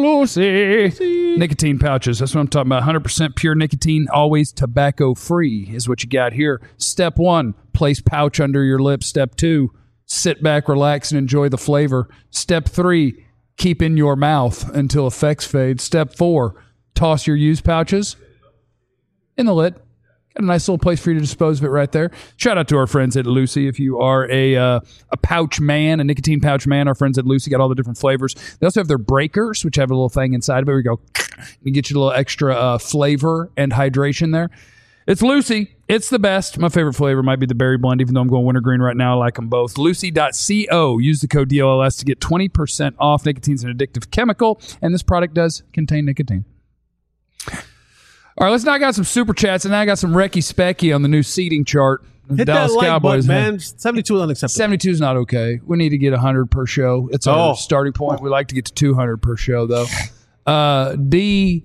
Lucy. Nicotine pouches. That's what I'm talking about. 100% pure nicotine, always tobacco free is what you got here. Step 1, place pouch under your lips. Step 2, sit back, relax, and enjoy the flavor. Step 3, keep in your mouth until effects fade. Step 4, toss your used pouches in the lid. Got a nice little place for you to dispose of it right there. Shout out to our friends at Lucy. If you are a pouch man, a nicotine pouch man, our friends at Lucy got all the different flavors. They also have their breakers, which have a little thing inside of it where you go, you get you a little extra flavor and hydration there. It's Lucy. It's the best. My favorite flavor might be the berry blend, even though I'm going wintergreen right now. I like them both. Lucy.co. Use the code DLS to get 20% off. Nicotine's an addictive chemical, and this product does contain nicotine. All right, let's knock out some super chats, and then I got some Recky Specky on the new seating chart. Hit Dallas that like Cowboys, button, man. 72 is unacceptable. 72 is not okay. We need to get 100 per show. It's our starting point. We like to get to 200 per show, though. D.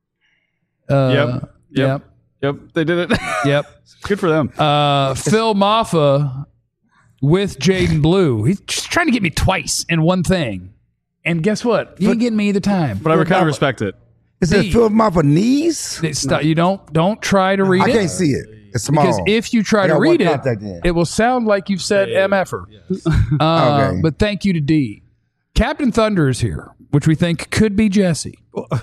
Yep. They did it. Yep. Good for them. Phil Maffa with Jaden Blue. He's just trying to get me twice in one thing. And guess what? You ain't getting me either time. But I kind of respect it. Is it Phil Maffa knees? You don't try to read it. I can't see it. It's small. Because if you try to read it, it will sound like you've said MFer. Yes. Okay. But thank you to D. Captain Thunder is here, which we think could be Jesse.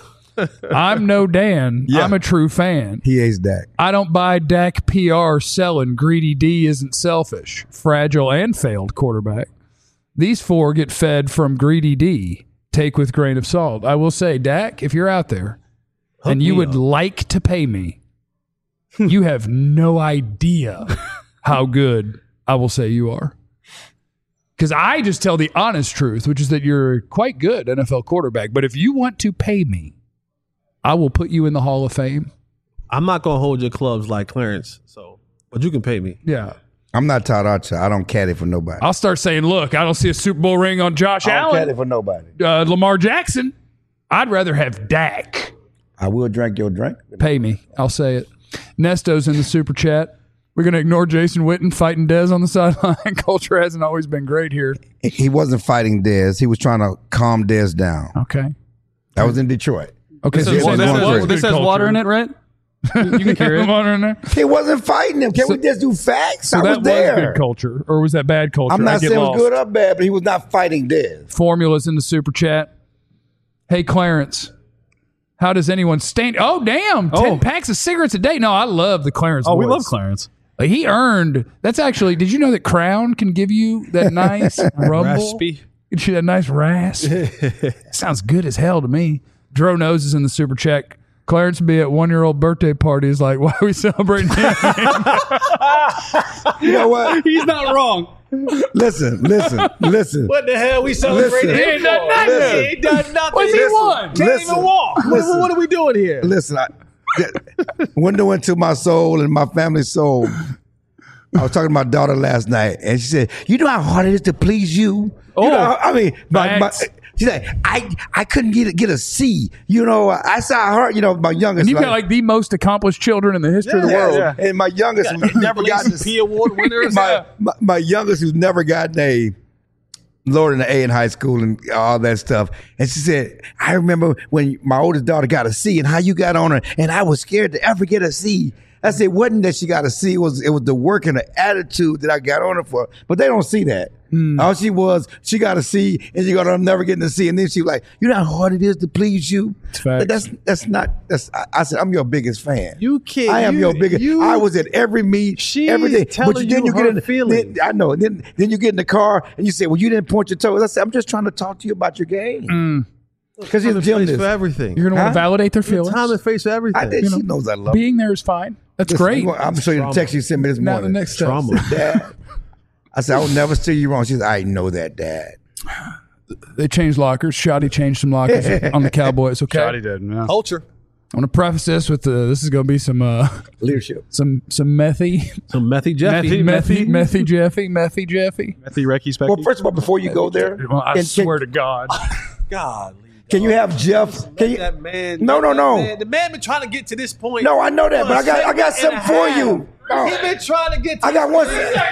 I'm no Dan. I'm a true fan. He hates Dak. I don't buy Dak PR selling. Greedy D isn't selfish. Fragile and failed quarterback. These 4 get fed from Greedy D. Take with grain of salt. I will say, Dak, if you're out there and you would like to pay me, you have no idea how good I will say you are. Because I just tell the honest truth, which is that you're a quite good NFL quarterback. But if you want to pay me, I will put you in the Hall of Fame. I'm not going to hold your clubs like Clarence, but you can pay me. Yeah. I'm not Todd Archer. I don't caddy for nobody. I'll start saying, look, I don't see a Super Bowl ring on Josh I don't Allen. caddy for nobody. Lamar Jackson. I'd rather have Dak. I will drink your drink. Pay me. I'll say it. Nesto's in the super chat. We're going to ignore Jason Witten fighting Dez on the sideline. Culture hasn't always been great here. He wasn't fighting Dez. He was trying to calm Dez down. Okay. That was in Detroit. Okay. This has water in it, right? You can carry it. Water in there. He wasn't fighting him. Can we just do facts? So I was that there. was good culture, or was that bad culture? I'm not saying it was good or bad, but he was not fighting Dez. Formula's in the super chat. Hey, Clarence. How does anyone stand? Oh, damn. 10 packs of cigarettes a day. No, I love the Clarence voice. We love Clarence. He earned. That's actually, did you know that Crown can give you that nice rumble? Raspy. Get you that nice rasp. Sounds good as hell to me. Dro Nose is in the super chat. Clarence be at 1-year-old birthday parties like, why are we celebrating him? You know what? He's not wrong. Listen. What the hell we celebrating? Listen. He ain't done nothing. He ain't done nothing. What's he won? Can't even walk. What are we doing here? Listen, window into my soul and my family's soul. I was talking to my daughter last night, and she said, "You know how hard it is to please you." You know, I mean, she said, "I couldn't get a C." You know, I saw her. You know, my youngest. And you've got like the most accomplished children in the history of the world. Yeah. And my youngest, who's never gotten a P award winners. my youngest, who's never gotten a lower than an A in high school and all that stuff. And she said, "I remember when my oldest daughter got a C and how you got on her, and I was scared to ever get a C." I said, it wasn't that she got a C, it was the work and the attitude that I got on her for. But they don't see that. All she got a C, and she got, I'm never getting a C. And then she was like, you know how hard it is to please you? But that's not, I said, I'm your biggest fan. You can't. I am your biggest. I was at every meet, every day. Telling you her feelings. I know. Then you get in the car, and you say, well, you didn't point your toes. I said, I'm just trying to talk to you about your game. Because he's a gymnast. For everything. You're going to want to validate their feelings. Time and face for everything. She knows I love being there is fine. That's great. I'm show you the text you sent me this morning. Now the next trauma. Dad, I said, I will never steer you wrong. She said, I know that, Dad. They changed lockers. Shoddy changed some lockers on the Cowboys. Okay, Shoddy did. Yeah. Culture. I want to preface this with this is going to be some Leadership. some methy Jeffy. methy Jeffy. Methy Recky Specky. Well, first of all, before you go there, Well, I swear to God. God. can you have Jeff? Can you? That man. No. The man been trying to get to this point. No, I know that, but I got something for you. No. He been trying to get to I got one.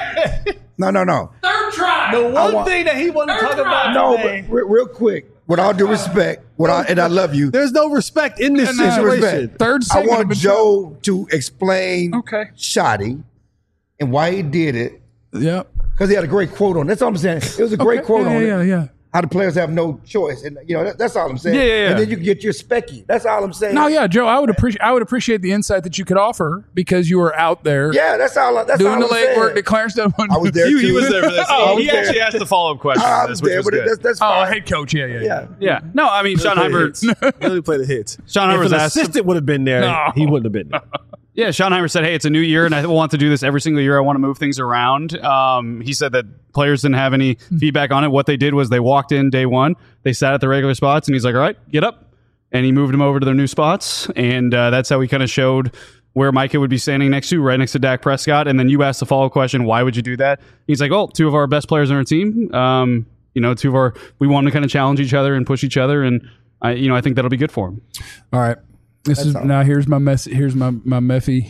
No. Third try. The one thing that he wasn't talking about No, today. but real quick, with all due respect, and I love you. There's no respect in this situation. Respect. Third I segment. want Joe to explain Okay. Shoddy and why he did it. Yep. Because he had a great quote on it. That's all I'm saying. It was a great quote on it. Yeah. How the players have no choice. And that's all I'm saying. Yeah. And then you can get your specky. That's all I'm saying. No, yeah, Joe. I would appreciate the insight that you could offer because you were out there. Yeah, that's all I'm doing the saying. legwork that Clarence done. I was there too. He was there for this. He actually asked the follow-up question I on was this, which there, was but good. that's Oh, fine. head coach. Yeah. Yeah. No, I mean, Sean Heimer. Really play the hits. Sean If Heimer's an asked. assistant would have been there, No. he wouldn't have been there. Yeah, Sean Heimer said, hey, it's a new year, and I want to do this every single year. I want to move things around. He said that players didn't have any feedback on it. What they did was they walked in day one, they sat at the regular spots, and he's like, all right, get up. And he moved them over to their new spots, and that's how he kind of showed where Micah would be standing next to, right next to Dak Prescott. And then you asked the follow-up question, why would you do that? He's like, oh, two of our best players on our team. We want to kind of challenge each other and push each other, and I think that'll be good for him. All right. Here's my mess. Here's my Meffy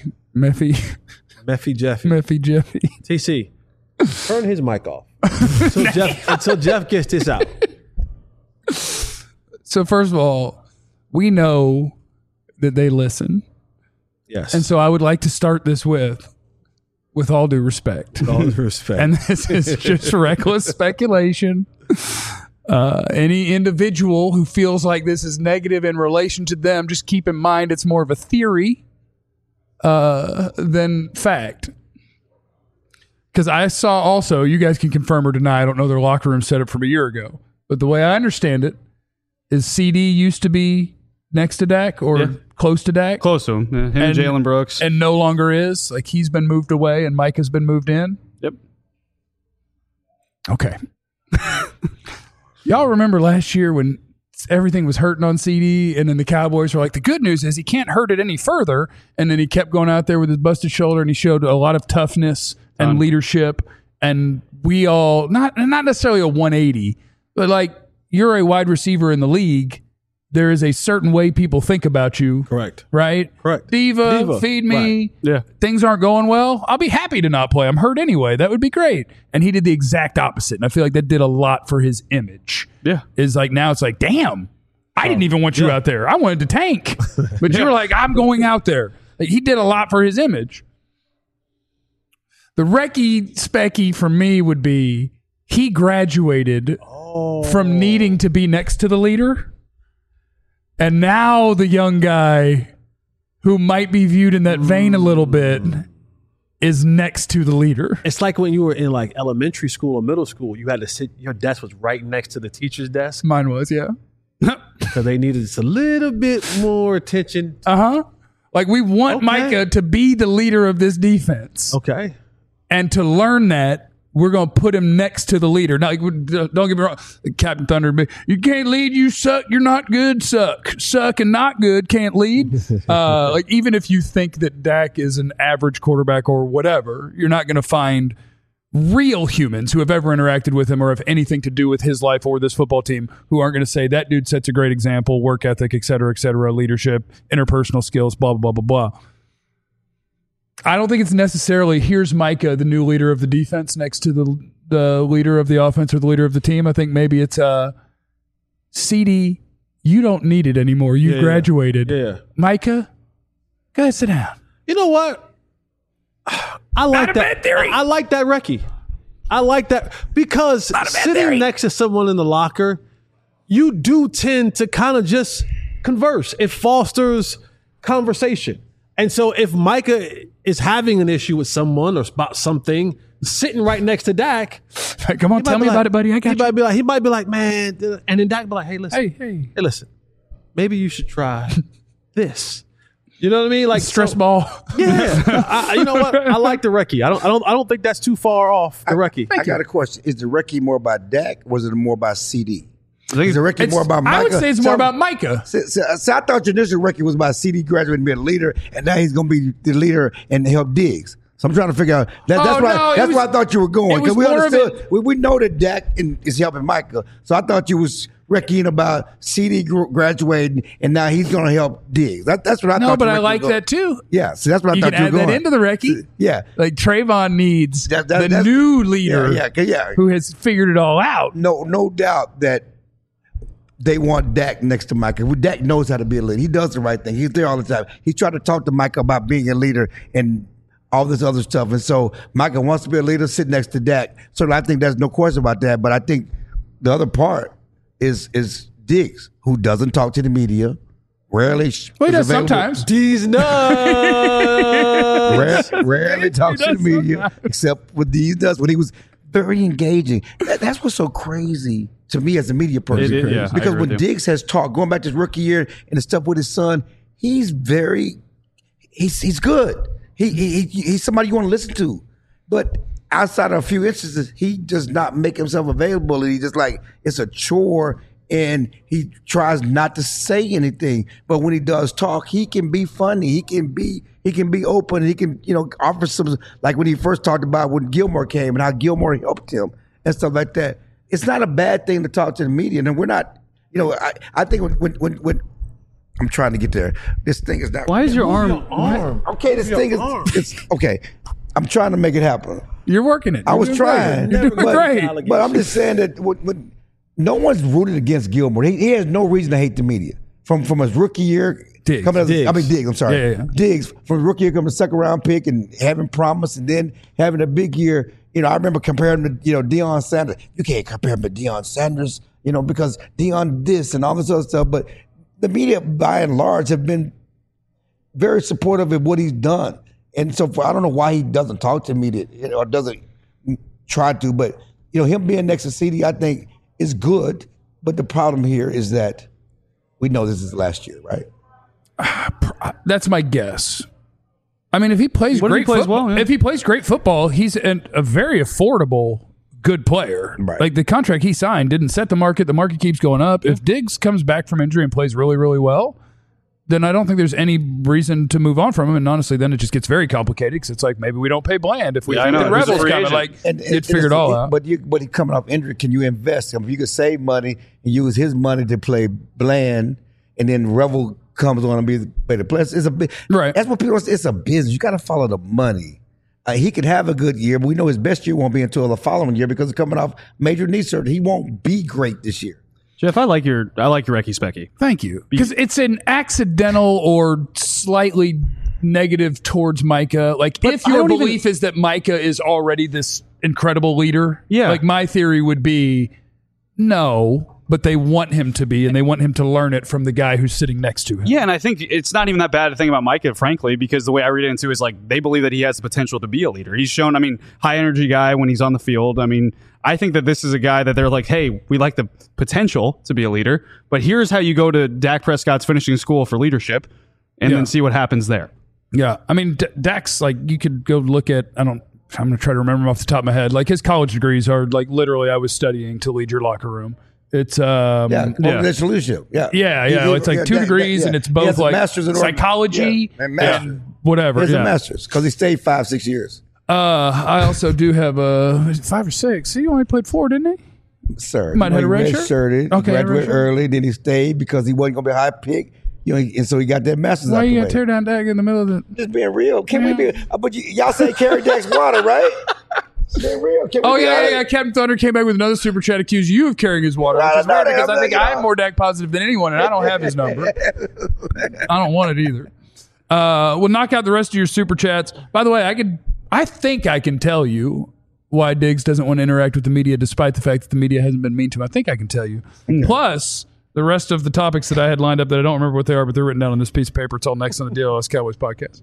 Jeffy. TC, turn his mic off until Jeff gets this out. So first of all, we know that they listen, Yes. and so I would like to start this with all due respect, all due respect. and this is just reckless speculation. Any individual who feels like this is negative in relation to them, just keep in mind it's more of a theory than fact. Because I saw also, you guys can confirm or deny, I don't know their locker room setup from a year ago, but the way I understand it is CD used to be next to Dak or close to Dak. Close to him. Yeah, him and Jalen Brooks. And no longer is. Like he's been moved away and Mike has been moved in. Yep. Okay. Y'all remember last year when everything was hurting on CD and then the Cowboys were like, the good news is he can't hurt it any further. And then he kept going out there with his busted shoulder and he showed a lot of toughness and leadership. And we all, not necessarily a 180, but like you're a wide receiver in the league. There is a certain way people think about you. Correct. Right? Correct. Diva, feed me. Right. Yeah. Things aren't going well. I'll be happy to not play. I'm hurt anyway. That would be great. And he did the exact opposite. And I feel like that did a lot for his image. Yeah. Is like now it's like, damn, I didn't even want you out there. I wanted to tank. But you were like, I'm going out there. Like, he did a lot for his image. The Recky Specky for me would be he graduated from needing to be next to the leader. And now the young guy who might be viewed in that vein a little bit is next to the leader. It's like when you were in like elementary school or middle school, you had to sit, your desk was right next to the teacher's desk Mine was, yeah. because they needed just a little bit more attention. Like we want Okay. Micah to be the leader of this defense. Okay. And to learn that we're going to put him next to the leader. Now, don't get me wrong. Captain Thunder, you can't lead, you suck, you're not good, suck and not good, can't lead. Like, even if you think that Dak is an average quarterback or whatever, you're not going to find real humans who have ever interacted with him or have anything to do with his life or this football team who aren't going to say that dude sets a great example, work ethic, et cetera, leadership, interpersonal skills, blah, blah, blah, blah, blah. I don't think it's necessarily here's Micah, the new leader of the defense, next to the leader of the offense or the leader of the team. I think maybe it's CD, you don't need it anymore. You graduated. Yeah. Micah, go ahead, sit down. You know what? I like that theory. I like that, Recchi. I like that because sitting next to someone in the locker, you do tend to kind of just converse. It fosters conversation. And so if Micah is having an issue with someone or about something, sitting right next to Dak, come on, tell me about it, buddy. I got you. He might be like, man, and then Dak be like, hey, listen, hey, listen, maybe you should try this. You know what I mean? Like stress ball. Yeah. You know what? I like the Recchi. I don't think that's too far off the Recchi. I got a question. Is the Recchi more about Dak or is it more about CD? Is the Recchi more about Micah? I would say it's more about Micah. So I thought your initial Recchi was about CD graduating and being a leader, and now he's going to be the leader and help Diggs. So I'm trying to figure out. That's where I thought you were going. Because we understood. We know that Dak is helping Micah. So I thought you was Recchiing about CD graduating, and now he's going to help Diggs. That's what I thought. No, but I like that too. Yeah, so that's what I thought you were going. You can add that into the Recchi. Yeah. Like Trayvon needs the new leader who has figured it all out. No doubt that they want Dak next to Micah. Dak knows how to be a leader. He does the right thing. He's there all the time. He tried to talk to Micah about being a leader and all this other stuff. And so Micah wants to be a leader, sit next to Dak. So I think there's no question about that. But I think the other part is Diggs, who doesn't talk to the media. Rarely. Well, he does sometimes. D's nuts. Rarely talks to the media, sometimes. Except what D's does when he was very engaging. That's what's so crazy to me as a media person. Because when Diggs has talked, going back to his rookie year and the stuff with his son, he's good. He's somebody you want to listen to. But outside of a few instances, he does not make himself available. And he just like, it's a chore and he tries not to say anything. But when he does talk, he can be funny. He can be open. He can, offer some, like when he first talked about when Gilmore came and how Gilmore helped him and stuff like that. It's not a bad thing to talk to the media. And we're not, I think when I'm trying to get there, this thing is not. Why is your arm? Okay, this thing is, it's okay. I'm trying to make it happen. You're working it. I was trying. You're doing great. But I'm just saying that when no one's rooted against Gilmore. He has no reason to hate the media. From his rookie year, Diggs. I'm sorry. Yeah. Diggs, from his rookie year coming second round pick and having promise and then having a big year. I remember comparing him to, Deion Sanders. You can't compare him to Deion Sanders, because Deion this and all this other stuff. But the media, by and large, have been very supportive of what he's done. And so I don't know why he doesn't talk to the media or doesn't try to. But, him being next to CD, I think, is good. But the problem here is that we know this is last year, right? That's my guess. I mean, if he plays great football, he's a very affordable, good player. Right. Like the contract he signed didn't set the market. The market keeps going up. If Diggs comes back from injury and plays really, really well, then I don't think there's any reason to move on from him. And honestly, then it just gets very complicated because it's like maybe we don't pay Bland if we think the Rebels coming. It's figured all out. But he coming off injury, can you invest? If you could save money and use his money to play Bland, and then Revel comes on and be the player. It's a bit right. That's what people say. It's a business. You got to follow the money. He could have a good year, but we know his best year won't be until the following year because he's coming off major knee surgery. He won't be great this year. Jeff, I like your Recchi Specky. Thank you. Because it's an accidental or slightly negative towards Micah. Like, but if your belief is that Micah is already this incredible leader, like my theory would be no, but they want him to be, and they want him to learn it from the guy who's sitting next to him. Yeah, and I think it's not even that bad a thing about Micah, frankly, because the way I read it into is like they believe that he has the potential to be a leader. He's shown, high energy guy when he's on the field. I think that this is a guy that they're like, hey, we like the potential to be a leader, but here's how you go to Dak Prescott's finishing school for leadership and then see what happens there. Yeah. Dak's like, you could go look at, I'm going to try to remember them off the top of my head. Like his college degrees are like literally I was studying to lead your locker room. It's organizational leadership. It's like 2 degrees and it's both like master's in psychology and whatever. He has a master's because he stayed 5-6 years. I also do have 5 or 6. See, he only played 4, didn't he? Sir, might have a red shirt. Okay, graduated early, then he stayed because he wasn't going to be a high pick. And so he got that master's. Why you gonna tear down Dak in the middle of the? Just being real. Can we be? But y'all say carry Dak's water, right? Being real. Captain Thunder came back with another super chat, accused you of carrying his water, which is weird because I think I'm more Dak positive than anyone, and I don't have his number. I don't want it either. We'll knock out the rest of your super chats. By the way, I think I can tell you why Diggs doesn't want to interact with the media, despite the fact that the media hasn't been mean to him. I think I can tell you. Okay. Plus, the rest of the topics that I had lined up that I don't remember what they are, but they're written down on this piece of paper. It's all next on the DLS Cowboys podcast.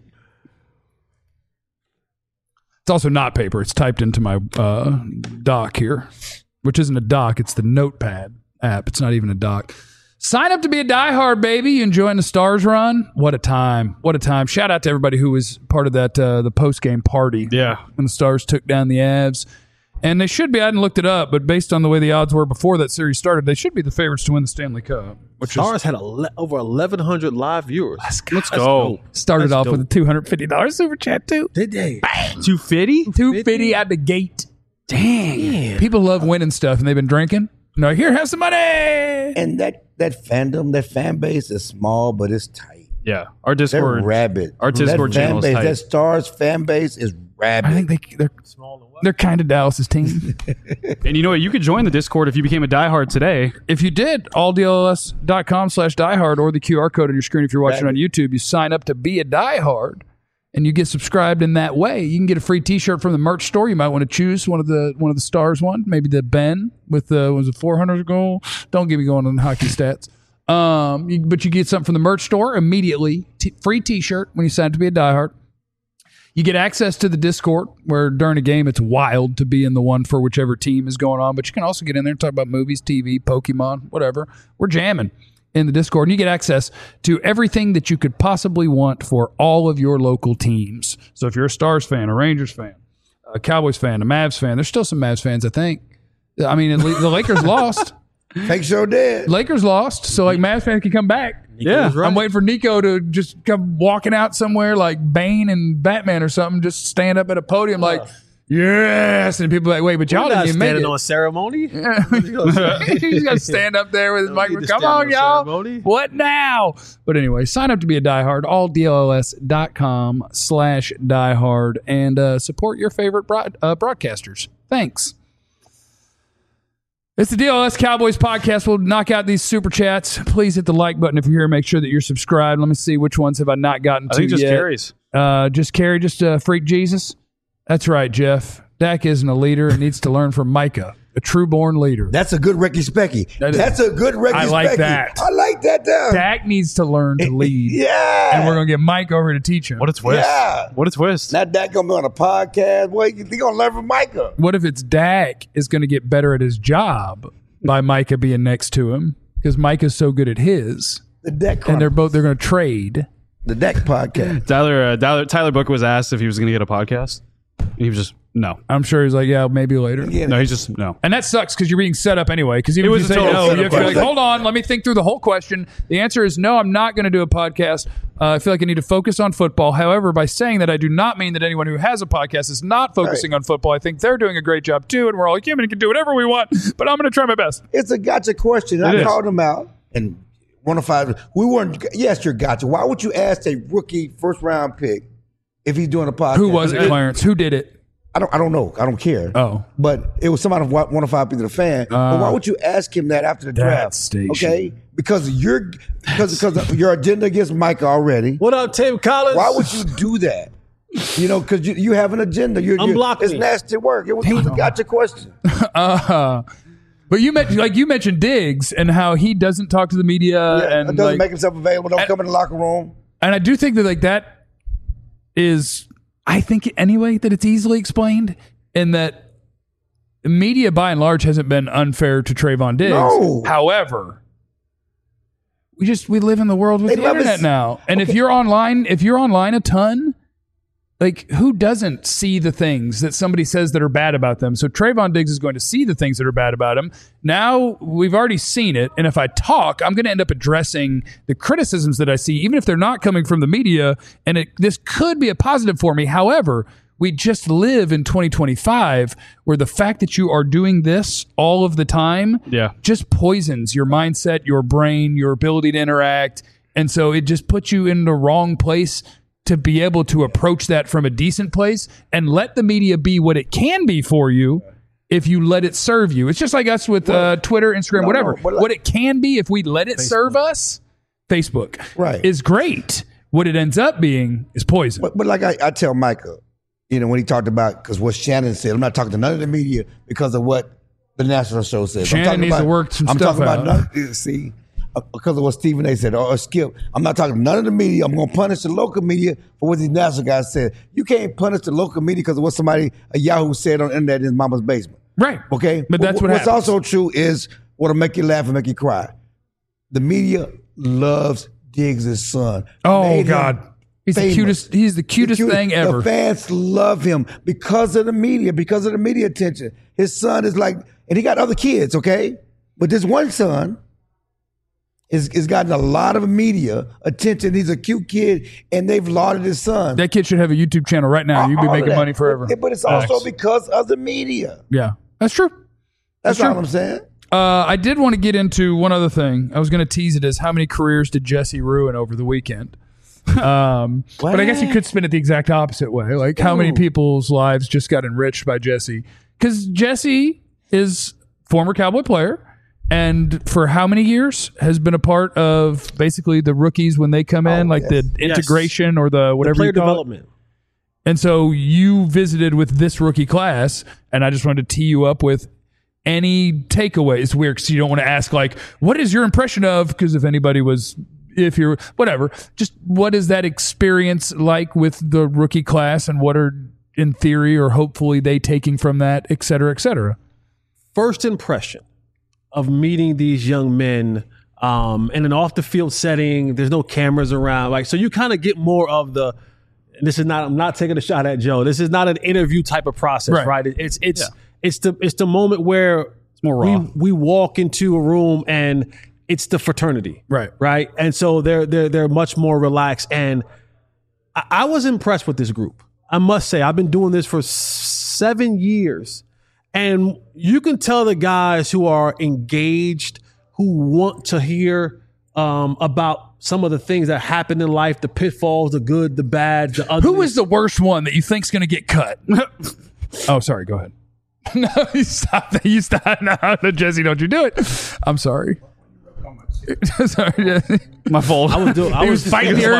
It's also not paper. It's typed into my doc here, which isn't a doc. It's the Notepad app. It's not even a doc. Sign up to be a diehard, baby. You enjoying the Stars run? What a time. What a time. Shout out to everybody who was part of that the post-game party. Yeah. When the Stars took down the Avs. And they should be, I hadn't looked it up, but based on the way the odds were before that series started, they should be the favorites to win the Stanley Cup. Stars had over 1,100 live viewers. Let's go. Started off with a $250 super chat, too. Did they? $250? $250 out the gate. Dang. People love winning stuff, and they've been drinking. No, here, have some money. And that fandom, that fan base is small, but it's tight. Yeah. Our Discord. They're rabid. Our Discord channel is tight. That Stars fan base is rabid. I think they're small. They're kind of Dallas's team. And you know what? You could join the Discord if you became a diehard today. If you did, alldls.com/diehard or the QR code on your screen if you're watching on YouTube, you sign up to be a diehard and you get subscribed in that way. You can get a free t-shirt from the merch store. You might want to choose one of the Stars one, maybe the Ben with the, was it 400 goal? Don't get me going on hockey stats. But you get something from the merch store immediately. Free t-shirt when you sign up to be a diehard. You get access to the Discord where during a game it's wild to be in the one for whichever team is going on. But you can also get in there and talk about movies, TV, Pokemon, whatever. We're jamming in the Discord. And you get access to everything that you could possibly want for all of your local teams. So if you're a Stars fan, a Rangers fan, a Cowboys fan, a Mavs fan, there's still some Mavs fans, I think. I mean, the Lakers lost. Fake show dead. Lakers lost, so like Mavs fans can come back. Yeah, I'm waiting for Nico to just come walking out somewhere like Bane and Batman or something, just stand up at a podium like, yes, and people are like, wait, but y'all didn't even make it. On ceremony. Yeah. He's got to stand up there with his microphone. Come on, y'all. Ceremony. What now? But anyway, sign up to be a diehard. alldls.com/diehard and support your favorite broadcasters. Thanks. It's the DLS Cowboys podcast. We'll knock out these super chats. Please hit the like button if you're here. Make sure that you're subscribed. Let me see which ones have I not gotten to yet. I think just Carrie's. Just Carrie, just Freak Jesus. That's right, Jeff. Dak isn't a leader and needs to learn from Micah, a true-born leader. That's a good Ricky Specky. That's a good Ricky Specky. I like that. I like that down. Dak needs to learn to lead. Yeah. And we're going to get Mike over to teach him. What a twist. Yeah. What a twist. Not Dak going to be on a podcast. Boy, they're going to learn from Micah. What if it's Dak is going to get better at his job by Micah being next to him? Because Micah's so good at his. The Dak and they're going to trade. The Dak podcast. Tyler Book was asked if he was going to get a podcast. And he was just, no. I'm sure he's like, yeah, maybe later. Yeah. No, he's just, no. And that sucks because you're being set up anyway. Because even if you say no, you have to be like, hold on, let me think through the whole question. The answer is no, I'm not going to do a podcast. I feel like I need to focus on football. However, by saying that, I do not mean that anyone who has a podcast is not focusing on football. I think they're doing a great job too, and we're all like, yeah, we can do whatever we want, but I'm going to try my best. It's a gotcha question. I called him out, and 105. We weren't. Yes, you're gotcha. Why would you ask a rookie first round pick if he's doing a podcast? Who was it, Clarence? Who did it? I don't know. I don't care. Oh. But it was somebody who wanted to be the fan. But why would you ask him that after the draft? Station. Okay? Because your agenda against Micah already. What up, Tim Collins? Why would you do that? You know, because you have an agenda. It's nasty work. It was a gotcha question. But you mentioned Diggs and how he doesn't talk to the media and doesn't make himself available. Don't come in the locker room. And I do think that that is. I think anyway that it's easily explained in that media by and large hasn't been unfair to Trayvon Diggs. No. However, we live in the world with the internet now. And if you're online a ton, Like, who doesn't see the things that somebody says that are bad about them? So Trayvon Diggs is going to see the things that are bad about him. Now we've already seen it. And if I talk, I'm going to end up addressing the criticisms that I see, even if they're not coming from the media. And this could be a positive for me. However, we just live in 2025 where the fact that you are doing this all of the time just poisons your mindset, your brain, your ability to interact. And so it just puts you in the wrong place to be able to approach that from a decent place and let the media be what it can be for you if you let it serve you. It's just like us with Twitter, Instagram, whatever. What it can be if we let it serve us, Facebook is great. What it ends up being is poison. But like I tell Micah, when he talked about, because what Shannon said, I'm not talking to none of the media because of what the national show says. Shannon needs to work some stuff out. Because of what Stephen A. said, or Skip, I'm not talking to none of the media. I'm going to punish the local media for what these national guys said. You can't punish the local media because of what a Yahoo said on the internet in his mama's basement. Right. Okay? But that's what's also true is what'll make you laugh and make you cry. The media loves Diggs' son. Oh, God. He's the cutest thing ever. The fans love him because of the media attention. His son is like, and he got other kids, okay? But this one son is gotten a lot of media attention. He's a cute kid, and they've lauded his son. That kid should have a YouTube channel right now. You'd be making money forever. But it's also because of the media. Yeah, that's true. That's all I'm saying. I did want to get into one other thing. I was going to tease it as how many careers did Jesse ruin over the weekend? But I guess you could spin it the exact opposite way. Like, how many people's lives just got enriched by Jesse? Because Jesse is former Cowboy player. And for how many years has been a part of basically the rookies when they come in, the integration or the whatever player you call development. It. And so you visited with this rookie class, and I just wanted to tee you up with any takeaways. It's weird because you don't want to ask, like, what is your impression of? Because if you're whatever, just what is that experience like with the rookie class, and what are in theory or hopefully they taking from that, et cetera, et cetera? First impression of meeting these young men in an off the field setting. There's no cameras around, so you kind of get more of the. I'm not taking a shot at Joe. This is not an interview type of process, right? It's the moment where it's more raw. We walk into a room and it's the fraternity, right, and so they're much more relaxed. And I was impressed with this group. I must say, I've been doing this for 7 years. And you can tell the guys who are engaged, who want to hear about some of the things that happen in life, the pitfalls, the good, the bad, the ugly. Who is the worst one that you think's going to get cut? Oh, sorry. Go ahead. No, you stop. No, Jesse, don't you do it. I'm sorry. Sorry, Jesse. My fault. I was fighting the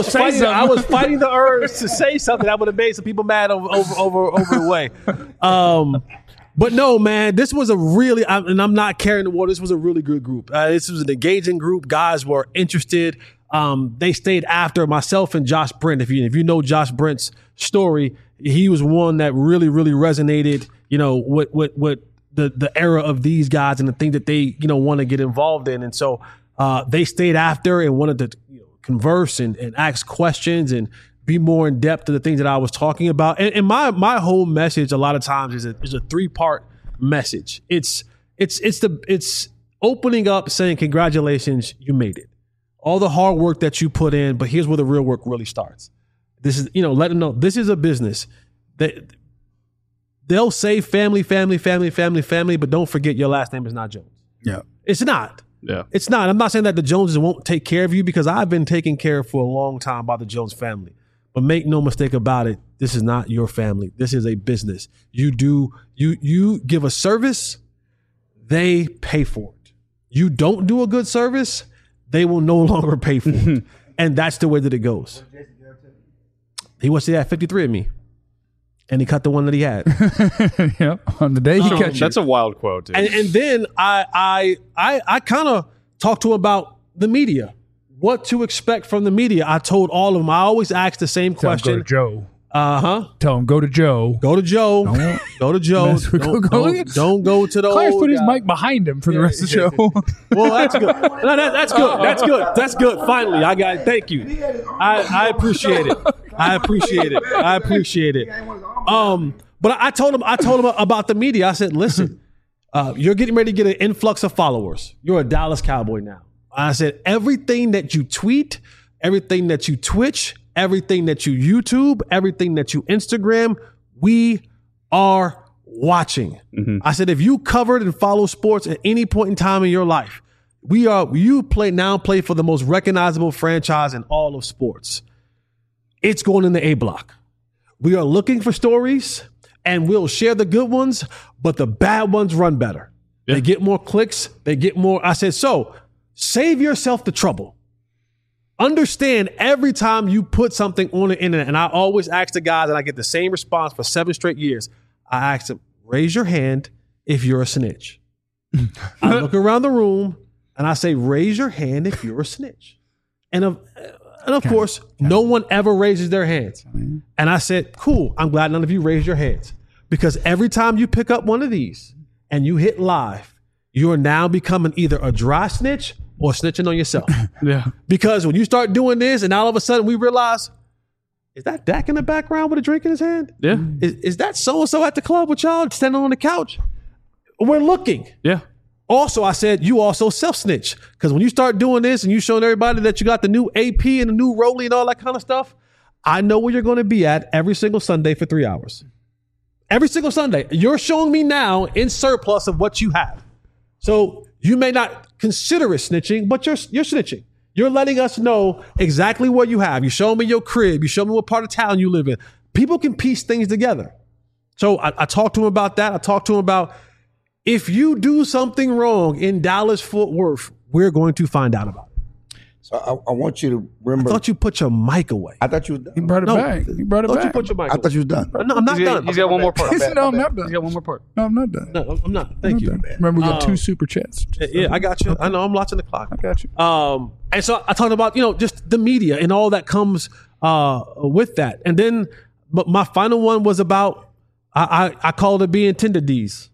urge to say something that would have made some people mad over the way. But no, man, this was and I'm not carrying the water. This was a really good group. This was an engaging group. Guys were interested. They stayed after myself and Josh Brent. If you know Josh Brent's story, he was one that really, really resonated, with the era of these guys and the things that they, want to get involved in. And so they stayed after and wanted to converse and ask questions and be more in depth to the things that I was talking about. And my whole message a lot of times is a 3-part message. It's opening up, saying, congratulations, you made it. All the hard work that you put in, but here's where the real work really starts. This is, let them know this is a business. They'll say family, but don't forget your last name is not Jones. Yeah. It's not. Yeah. It's not. I'm not saying that the Joneses won't take care of you, because I've been taken care of for a long time by the Jones family. But make no mistake about it, this is not your family. This is a business. You give a service, they pay for it. You don't do a good service, they will no longer pay for it. And that's the way that it goes. He wants to have 53 of me. And he cut the one that he had. Yep. On the day he cut you. That's a wild quote, dude. And then I kind of talked to him about the media. What to expect from the media. I told all of them. I always ask the same question. Go to Joe. Tell him go to Joe. Go to Joe. Go to Joe. Don't go to the Clive old put his guy. mic behind him for the rest of the show. Well, that's good. No, that's good. That's good. That's good. Finally, I got it. Thank you. I appreciate it. I appreciate it. But I told him about the media. I said, listen, you're getting ready to get an influx of followers. You're a Dallas Cowboy now. I said, everything that you tweet, everything that you Twitch, everything that you YouTube, everything that you Instagram, we are watching. I said, if you covered and follow sports at any point in time in your life, you play for the most recognizable franchise in all of sports. It's going in the A block. We are looking for stories and we'll share the good ones, but the bad ones run better. Yeah. They get more clicks. They get more. I said, so save yourself the trouble. Understand every time you put something on the internet, and I always ask the guys, and I get the same response for 7 straight years. I ask them, raise your hand if you're a snitch. I look around the room and I say, raise your hand if you're a snitch. And of course, no one ever raises their hands. And I said, cool, I'm glad none of you raised your hands. Because every time you pick up one of these and you hit live, you are now becoming either a dry snitch or snitching on yourself. Yeah. Because when you start doing this and all of a sudden we realize, is that Dak in the background with a drink in his hand? Yeah. Is that so-and-so at the club with y'all standing on the couch? We're looking. Yeah. Also, I said, you also self-snitch. Because when you start doing this and you showing everybody that you got the new AP and the new Rollie and all that kind of stuff, I know where you're going to be at every single Sunday for 3 hours. Every single Sunday. You're showing me now in surplus of what you have. So you may not consider it snitching, but you're snitching. You're letting us know exactly what you have. You show me your crib. You show me what part of town you live in. People can piece things together. So I talked to him about that. I talked to him about, if you do something wrong in Dallas-Fort Worth, we're going to find out about it. So I want you to remember. I thought you put your mic away. I thought you were done. He brought it back. He brought it I thought back. you put your mic I away. thought you was done. No, I'm not done. He's got one more part. No, I'm not done. He's got one more part. No, I'm not done. No, I'm not. Thank you. Remember, we got 2 super chats. Yeah, I got you. I know. I'm watching the clock. I got you. And so I talked about, just the media and all that comes with that. And then, but my final one was about, I called it being Tinder D's.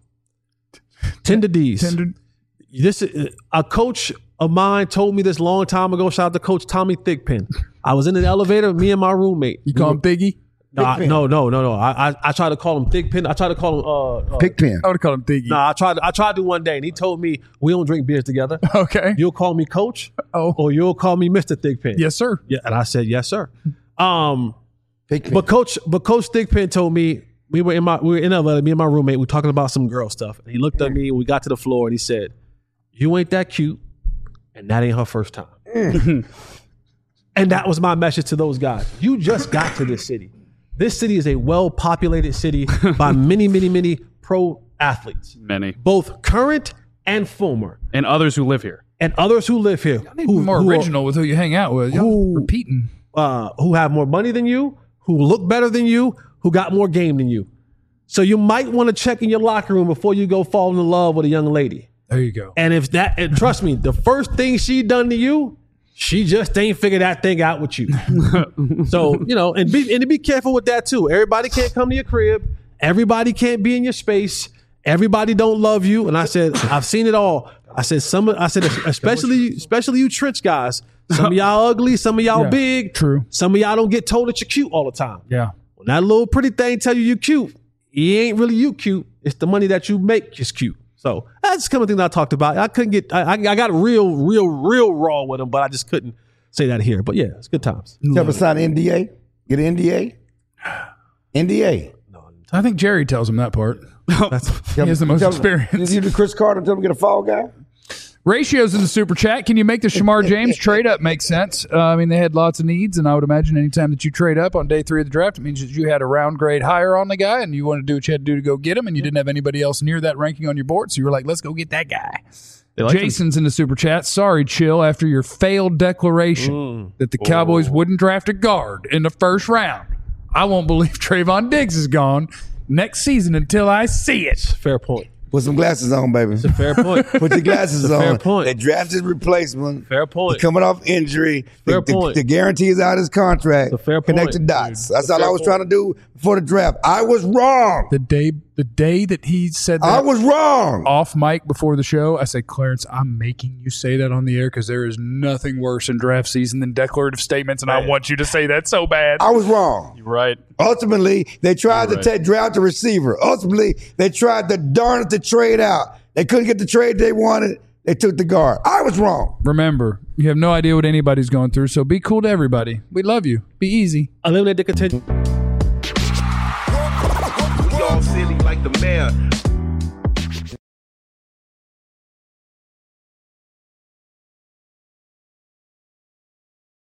Tinder D's. This a coach of mine told me this long time ago. Shout out to Coach Tommy Thigpen. I was in an elevator, me and my roommate. You call him Thiggy? No. I tried to call him Thigpen. I tried to call him Pigpen. I would call him Thiggy. No, I tried to one day, and he told me we don't drink beers together. Okay. You'll call me Coach, Oh. or you'll call me Mr. Thigpen. Yes, sir. Yeah, and I said yes, sir. Pigpen. But Coach Thigpen told me we were in LA, me and my roommate, we were talking about some girl stuff. And he looked at me and we got to the floor and he said, you ain't that cute, and that ain't her first time. And that was my message to those guys. You just got to this city. This city is a well-populated city by many, many, many pro athletes. Many. Both current and former. And others who live here. And others who live here. Be more original with who you hang out with. Y'all repeating. Who have more money than you, who look better than you, who got more game than you. So you might want to check in your locker room before you go fall in love with a young lady. There you go. And and trust me, the first thing she done to you, she just ain't figured that thing out with you. So, and be careful with that too. Everybody can't come to your crib. Everybody can't be in your space. Everybody don't love you. And I said, I've seen it all. I said, especially you Trench guys. Some of y'all ugly, some of y'all big. True. Some of y'all don't get told that you're cute all the time. Yeah. When that little pretty thing tell you cute, he ain't really you cute. It's the money that you make is cute. So that's kind of thing that I talked about. I couldn't get, I got real raw with him, but I just couldn't say that here. But yeah, it's good times. You ever sign an NDA? Get an NDA? NDA. I think Jerry tells him that part. He has the most experience. You do Chris Carter tell him to get a fall guy? Ratios in the super chat. Can you make the Shamar James trade up make sense? They had lots of needs, and I would imagine anytime that you trade up on day 3 of the draft, it means that you had a round grade higher on the guy, and you wanted to do what you had to do to go get him, and you didn't have anybody else near that ranking on your board, so you were like, let's go get that guy. Jason's in the super chat. Sorry, Chill, after your failed declaration that the Cowboys wouldn't draft a guard in the first round, I won't believe Trayvon Diggs is gone next season until I see it. Fair point. Put some glasses on, baby. It's a fair point. Put your glasses on. Fair point. They drafted replacement. Fair point. He's coming off injury. Fair point. The guarantee is out his contract. It's a fair Connect point. the dots. Dude. That's all I was trying to do before the draft. I was wrong. The day that he said that I was wrong. off mic before the show, I said, Clarence, I'm making you say that on the air because there is nothing worse in draft season than declarative statements, and I want you to say that so bad. I was wrong. You're right. Ultimately, they tried to draft a receiver. Ultimately, they tried to darn it to trade out. They couldn't get the trade they wanted. They took the guard. I was wrong. Remember, you have no idea what anybody's going through, so be cool to everybody. We love you. Be easy. Eliminate the contention. Y'all silly like the mayor.